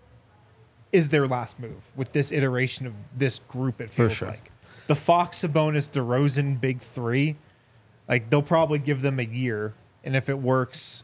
is their last move with this iteration of this group, it For feels sure. like. The Fox, Sabonis, DeRozan big three, like they'll probably give them a year. And if it works,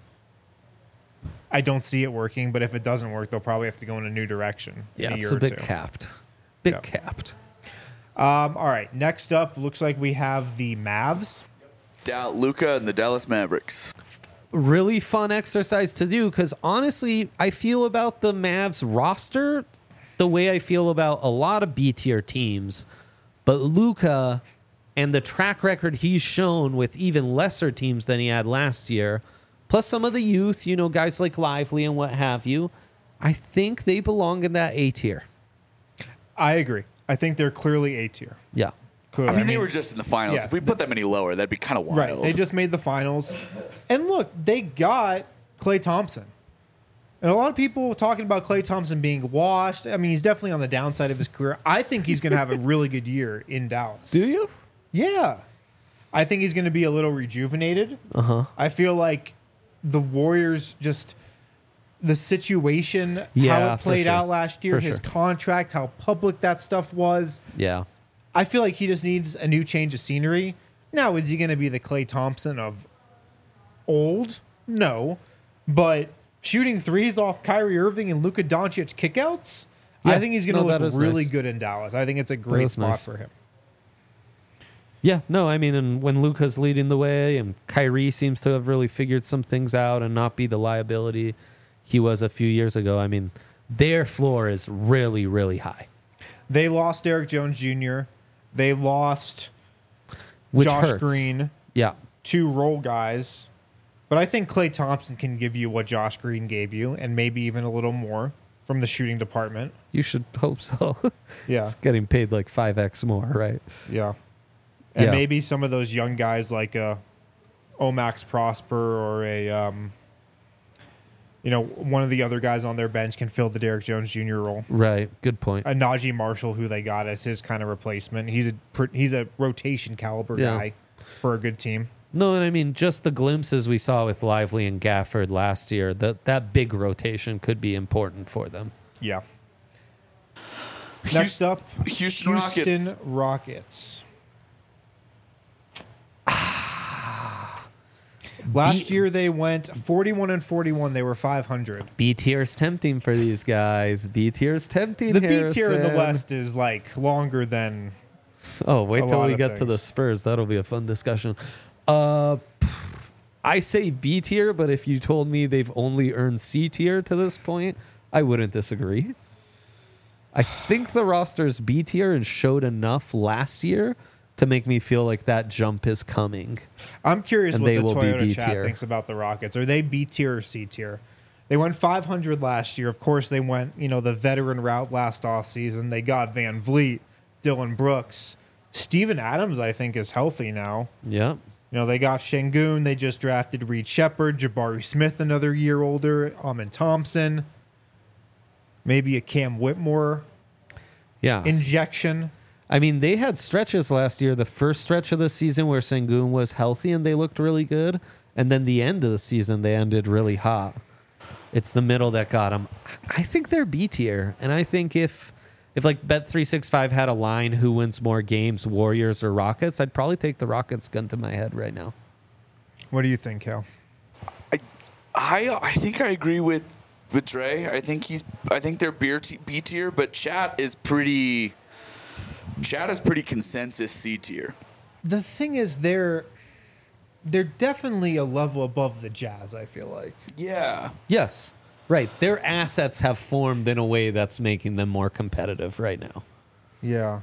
I don't see it working. But if it doesn't work, they'll probably have to go in a new direction Yeah, in a it's year a or bit two. capped. Bit Yeah. capped. Um, all right, next up, looks like we have the Mavs. Da- Luka and the Dallas Mavericks. Really fun exercise to do because honestly, I feel about the Mavs roster the way I feel about a lot of B tier teams. But Luka and the track record he's shown with even lesser teams than he had last year, plus some of the youth, you know, guys like Lively and what have you, I think they belong in that A tier. I agree. I think they're clearly A tier. Yeah. Cool. I mean, they were just in the finals. yeah. If we put them any lower, that'd be kind of wild. right. They just made the finals. And look, they got Klay Thompson. And a lot of people talking about Klay Thompson being washed. I mean, he's definitely on the downside of his career. I think he's going to have a really good year in Dallas. Do you? Yeah. I think he's going to be a little rejuvenated. Uh-huh. I feel like the Warriors just the situation, how Yeah, it for played sure. out last year, For his sure. contract, how public that stuff was. Yeah. I feel like he just needs a new change of scenery. Now, is he going to be the Klay Thompson of old? No. But shooting threes off Kyrie Irving and Luka Doncic kickouts, Yeah. I think he's going to No, that look is really nice. good in Dallas. I think it's a great is spot nice. for him. Yeah, no, I mean, and when Luka's leading the way and Kyrie seems to have really figured some things out and not be the liability he was a few years ago, I mean, their floor is really, really high. They lost Derek Jones Junior They lost Which Josh hurts. Green, Yeah. two role guys. But I think Klay Thompson can give you what Josh Green gave you and maybe even a little more from the shooting department. You should hope so. Yeah. He's getting paid like five X more, right? Yeah. And Yeah. maybe some of those young guys like a Omax Prosper or a, um, you know, one of the other guys on their bench can fill the Derek Jones Junior role. Right. Good point. A Najee Marshall, who they got as his kind of replacement. He's a pr- he's a rotation caliber Yeah. guy for a good team. No, and I mean, just the glimpses we saw with Lively and Gafford last year, that, that big rotation could be important for them. Yeah. Next up, Houston Rockets. Houston Rockets. Last B- year they went forty-one and forty-one. They were five hundred. B tier's tempting for these guys. B tier's tempting. The B tier in the Harrison. West is like longer than. Oh, wait a till lot we of get to the things. Spurs. That'll be a fun discussion. Uh, I say B tier, but if you told me they've only earned C tier to this point, I wouldn't disagree. I think the roster's B tier and showed enough last year to make me feel like that jump is coming. I'm curious And what they the will be Toyota B chat tier. thinks about the Rockets. Are they B tier or C tier? They went five hundred last year. Of course, they went, you know, the veteran route last offseason. They got Van Vliet, Dylan Brooks. Steven Adams, I think, is healthy now. Yep. You know, they got Şengün. They just drafted Reed Shepard, Jabari Smith, another year older, Amin Thompson. Maybe a Cam Whitmore Yeah. injection. I mean, they had stretches last year. The first stretch of the season where Şengün was healthy and they looked really good. And then the end of the season, they ended really hot. It's the middle that got them. I think they're B tier. And I think if, if like Bet three sixty-five had a line who wins more games, Warriors or Rockets, I'd probably take the Rockets gun to my head right now. What do you think, Cal? I, I, I think I agree with with Dre. I think he's. I think they're B t- B tier, but Chat is pretty. Chat is pretty consensus C tier. The thing is, they're they're definitely a level above the Jazz, I feel like. Yeah. Yes. Right. Their assets have formed in a way that's making them more competitive right now. Yeah.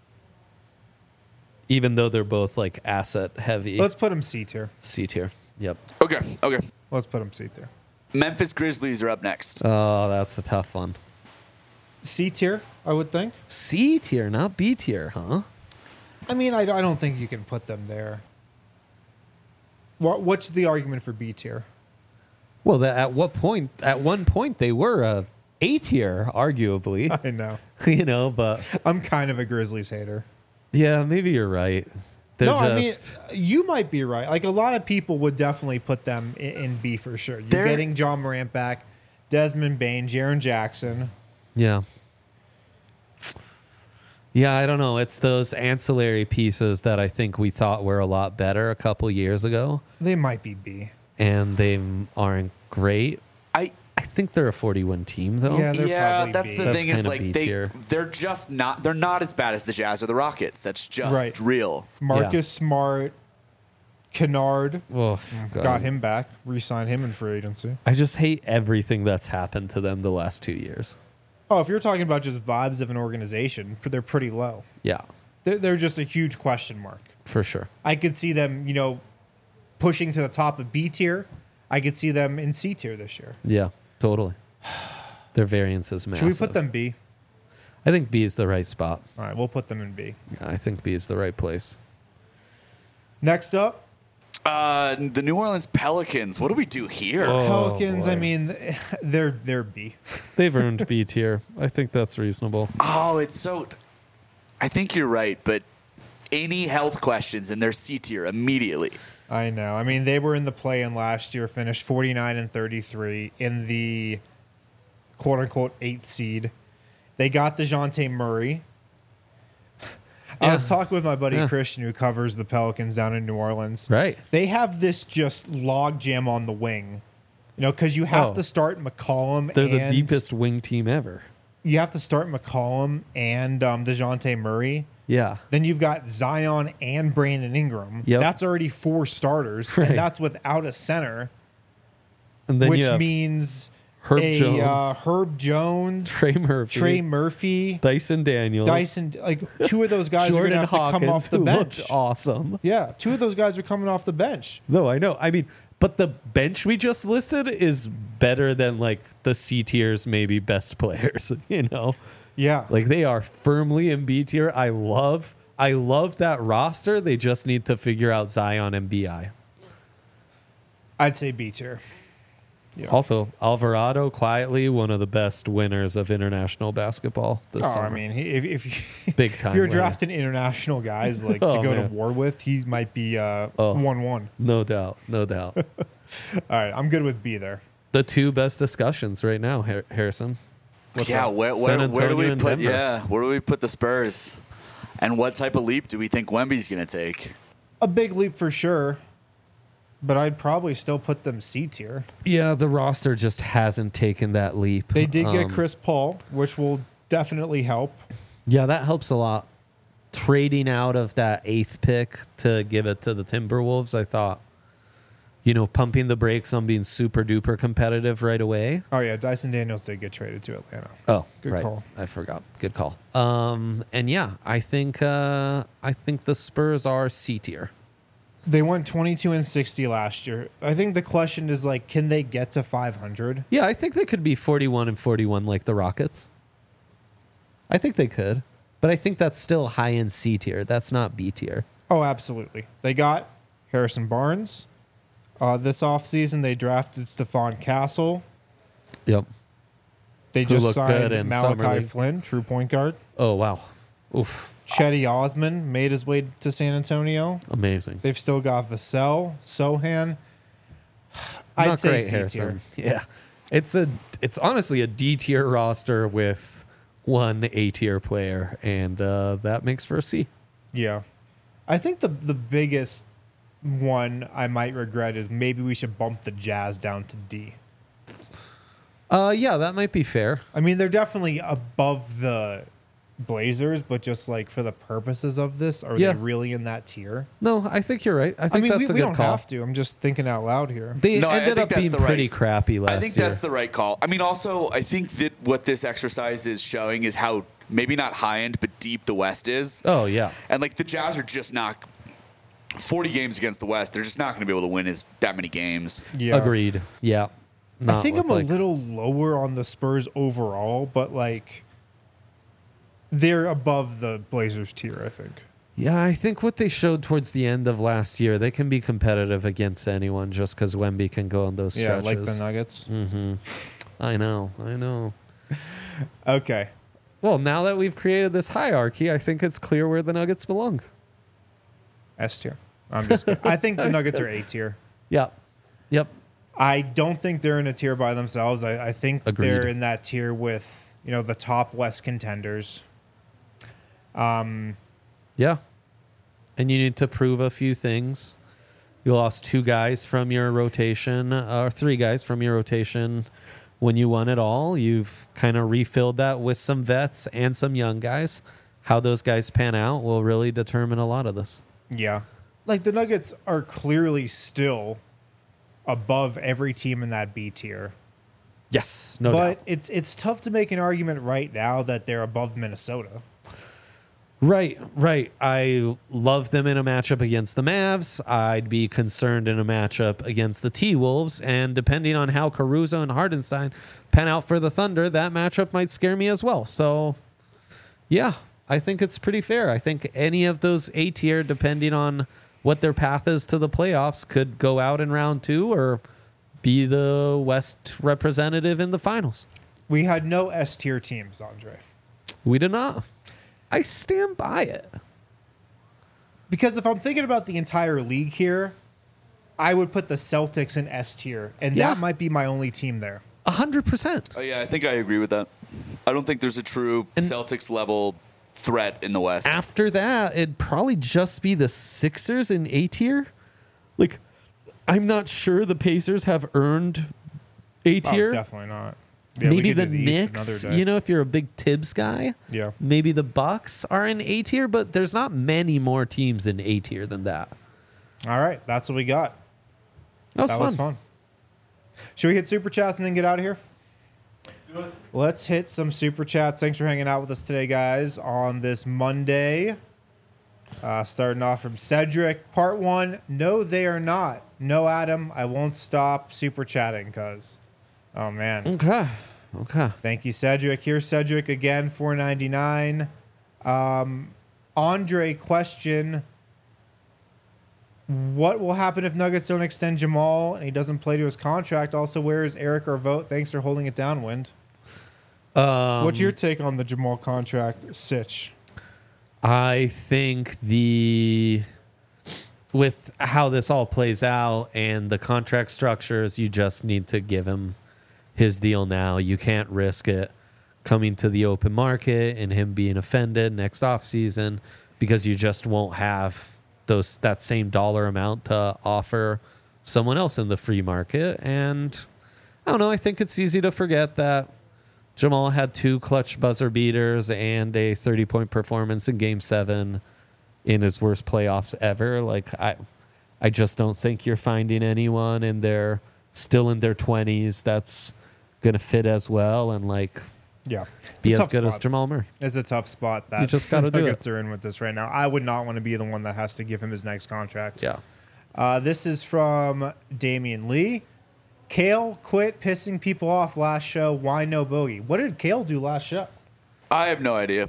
Even though they're both like asset heavy. Let's put them C tier. C tier. Yep. Okay. Okay. Let's put them C tier. Memphis Grizzlies are up next. Oh, that's a tough one. C tier, I would think. C tier, not B tier, huh? I mean, I, I don't think you can put them there. What What's the argument for B tier? Well, that at what point? At one point, they were a A tier, arguably. I know. You know, but I'm kind of a Grizzlies hater. yeah, maybe you're right. They're no, just I mean, you might be right. Like, a lot of people would definitely put them in, in B for sure. You're They're- getting John Morant back, Desmond Bain, Jaren Jackson. yeah, yeah. I don't know. It's those ancillary pieces that I think we thought were a lot better a couple years ago, They might be B. and they aren't great. I. I think they're a forty-win team, though. Yeah, they're Yeah, probably that's B. the That's thing is kinda like B they tier. they're just not they're not as bad as the Jazz or the Rockets. That's just Right. real. Marcus Yeah. Smart, Kennard, Oh, God. got him back, re-signed him in free agency. I just hate everything that's happened to them the last two years. Oh, if you're talking about just vibes of an organization, they're pretty low. Yeah, They're, they're just a huge question mark. for sure. I could see them, you know, pushing to the top of B tier. I could see them in C tier this year. Yeah, totally. Their variance is massive. Should we put them B? I think B is the right spot. All right, we'll put them in B. Yeah, I think B is the right place. Next up, Uh, the New Orleans Pelicans. What do we do here? Oh, Pelicans. I boy. mean, they're they're B. They've earned B tier. I think that's reasonable. Oh, it's so. I think you're right, but any health questions and they're C tier immediately. I know. I mean, they were in the play-in last year, finished forty-nine and thirty-three in the quote-unquote eighth seed. They got DeJounte Murray. I was talking with my buddy Yeah. Christian, who covers the Pelicans down in New Orleans. Right. They have this just log jam on the wing, you know, because you have Oh. to start McCollum. They're the and deepest wing team ever. You have to start McCollum and um, DeJounte Murray. Yeah. Then you've got Zion and Brandon Ingram. Yep. That's already four starters, Right. and that's without a center, And then which you have means Herb a, Jones, uh, Herb Jones, Trey Murphy, Trey Murphy, Dyson Daniels, Dyson. Like, two of those guys Jordan are going to have to come Hawkins, off the who bench. looked awesome. Yeah, two of those guys are coming off the bench. No, I know. I mean, but the bench we just listed is better than like the C tiers, maybe best players. You know, Yeah. like they are firmly in B tier. I love, I love that roster. They just need to figure out Zion and B I. I'd say B tier. Yeah. Also, Alvarado quietly one of the best winners of international basketball this Oh, summer. I mean, he, if, if, you, Big if time you're winner. drafting international guys like Oh, to go to man. war with, he might be uh, Oh. one one. No doubt, no doubt. All right, I'm good with B there. The two best discussions right now, Har- Harrison. What's yeah, up? where, San where, where do Antonio we and put? Denver. Yeah, where do we put the Spurs? And what type of leap do we think Wemby's going to take? A big leap for sure, but I'd probably still put them C tier. Yeah, the roster just hasn't taken that leap. They did get Um, Chris Paul, which will definitely help. Yeah, that helps a lot. Trading out of that eighth pick to give it to the Timberwolves, I thought, you know, pumping the brakes on being super duper competitive right away. Oh yeah, Dyson Daniels did get traded to Atlanta. Oh, Good right. call. I forgot. Good call. Um, and yeah, I think uh, I think the Spurs are C tier. They went twenty-two and sixty last year. I think the question is like, can they get to five hundred? Yeah, I think they could be forty-one and forty-one like the Rockets. I think they could, but I think that's still high end C tier. That's not B tier. Oh, absolutely. They got Harrison Barnes. Uh, this offseason, they drafted Stephon Castle. Yep. They Who just looked good in signed Summer Malachi League. Flynn, true point guard. Oh wow. Oof. Chetty Osman made his way to San Antonio. Amazing. They've still got Vassell, Sohan. I'd Not say great, C tier. Harrison. Yeah. It's a it's honestly a D tier roster with one A tier player, and uh, that makes for a C. Yeah. I think the the biggest one I might regret is maybe we should bump the Jazz down to D. Uh, yeah, that might be fair. I mean, they're definitely above the Blazers, but just like for the purposes of this, are Yeah. they really in that tier? No, I think you're right. I I think mean, that's we, a we good don't call. have to. I'm just thinking out loud here. They No, I ended think up that's being the pretty right- crappy last I think year. that's the right call. I mean, also, I think that what this exercise is showing is how maybe not high end, but deep the West is. Oh yeah. And like the Jazz are just not forty games against the West. They're just not going to be able to win as that many games. Yeah. Agreed. Yeah. I Not think with, I'm a like- little lower on the Spurs overall, but like they're above the Blazers tier, I think. Yeah, I think what they showed towards the end of last year, they can be competitive against anyone just because Wemby can go on those Yeah, stretches. like the Nuggets. Mm-hmm. I know. I know. Okay. Well, now that we've created this hierarchy, I think it's clear where the Nuggets belong. S tier. I'm just kidding. I think the Nuggets are A tier. Yep. Yep. I don't think they're in a tier by themselves. I, I think Agreed. they're in that tier with, you know, the top West contenders. Um, Yeah. And you need to prove a few things. You lost two guys from your rotation, or three guys from your rotation when you won it all. You've kind of refilled that with some vets and some young guys. How those guys pan out will really determine a lot of this. yeah. Like the Nuggets are clearly still above every team in that B tier. Yes, no but doubt. it's it's tough to make an argument right now that they're above Minnesota. Right, right. I love them in a matchup against the Mavs. I'd be concerned in a matchup against the T-Wolves. And depending on how Caruso and Hardenstein pan out for the Thunder, that matchup might scare me as well. So, yeah, I think it's pretty fair. I think any of those A tier, depending on what their path is to the playoffs, could go out in round two or be the West representative in the finals. We had no S tier teams, Andre. We did not. I stand by it. Because if I'm thinking about the entire league here, I would put the Celtics in S tier, and Yeah. that might be my only team there. A hundred percent. Oh yeah, I think I agree with that. I don't think there's a true And- Celtics level threat in the West. After that, it'd probably just be the Sixers in A tier. Like, I'm not sure the Pacers have earned A Oh, tier. definitely not. Yeah, we maybe could the do East Knicks. another day. You know, if you're a big Tibbs guy, Yeah. maybe the Bucks are in A tier, but there's not many more teams in A tier than that. All right, that's what we got. That was that fun. was fun. Should we hit super chats and then get out of here? Let's do it. Let's hit some super chats. Thanks for hanging out with us today, guys, on this Monday. Uh, starting off from Cedric, part one. No, they are not. No, Adam, I won't stop super chatting, cuz. Oh man. Okay. Okay. Thank you, Cedric. Here's Cedric again, four ninety-nine. Um, Andre, question: what will happen if Nuggets don't extend Jamal and he doesn't play to his contract? Also, where is Eric or Vote? Thanks for holding it down, Wind. Um, What's your take on the Jamal contract, Sitch? I think the with how this all plays out and the contract structures, you just need to give him his deal now. You can't risk it coming to the open market and him being offended next offseason because you just won't have those that same dollar amount to offer someone else in the free market. And I don't know. I think it's easy to forget that Jamal had two clutch buzzer beaters and a thirty-point performance in Game Seven in his worst playoffs ever. Like I, I just don't think you're finding anyone in their still in their twenties that's gonna fit as well and like yeah be as good spot. as Jamal Murray. It's a tough spot that you just gotta do Nuggets it. are in with this right now. I would not want to be the one that has to give him his next contract. Yeah. Uh, this is from Damian Lee. Kale quit pissing people off last show. Why no bogey? What did Kale do last show? I have no idea.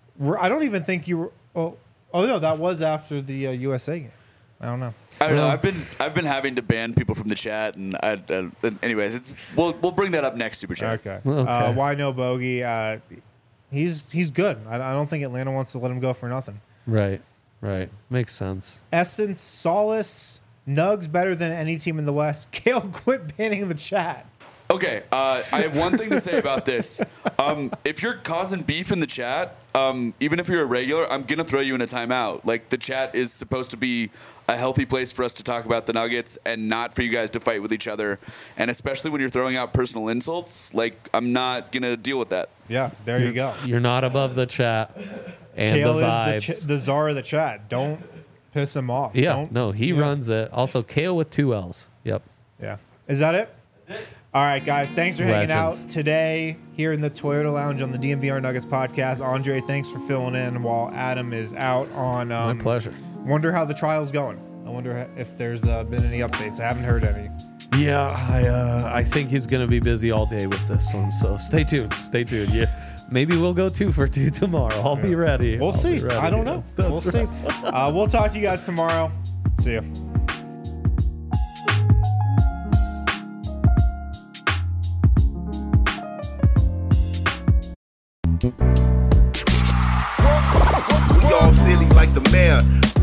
I don't even think you were. Oh, oh no, that was after the uh, U S A game. I don't know. I don't know. I've been I've been having to ban people from the chat, and I, uh, anyways, it's we'll we'll bring that up next super chat. Okay. okay. Uh, why no bogey? Uh, he's he's good. I, I don't think Atlanta wants to let him go for nothing. Right. Right. Makes sense. Essence, Solace, Nugs better than any team in the West. Kale, quit banning the chat. Okay, uh, I have one thing to say about this. Um, if you're causing beef in the chat, um, even if you're a regular, I'm gonna throw you in a timeout. Like the chat is supposed to be a healthy place for us to talk about the Nuggets and not for you guys to fight with each other. And especially when you're throwing out personal insults, like I'm not gonna deal with that. Yeah, there you go. You're not above the chat and Kale the vibes. is the, ch- the czar of the chat. Don't piss him off. Yeah, Don't, no, he yeah. runs it. Also, Kale with two L's. Yep. Yeah. Is that it? That's it. All right, guys. Thanks for hanging Legends. out today here in the Toyota Lounge on the D M V R Nuggets podcast. Andre, thanks for filling in while Adam is out on. Um, My pleasure. Wonder how the trial's going. I wonder if there's uh, been any updates. I haven't heard any. Yeah, I uh, I think he's gonna be busy all day with this one. So stay tuned. Stay tuned. Yeah. Maybe we'll go two for two tomorrow. I'll yeah. be ready. We'll I'll see. Ready. I don't know. That's, that's we'll right. see. Uh, we'll talk to you guys tomorrow. See you. We all silly like the mayor.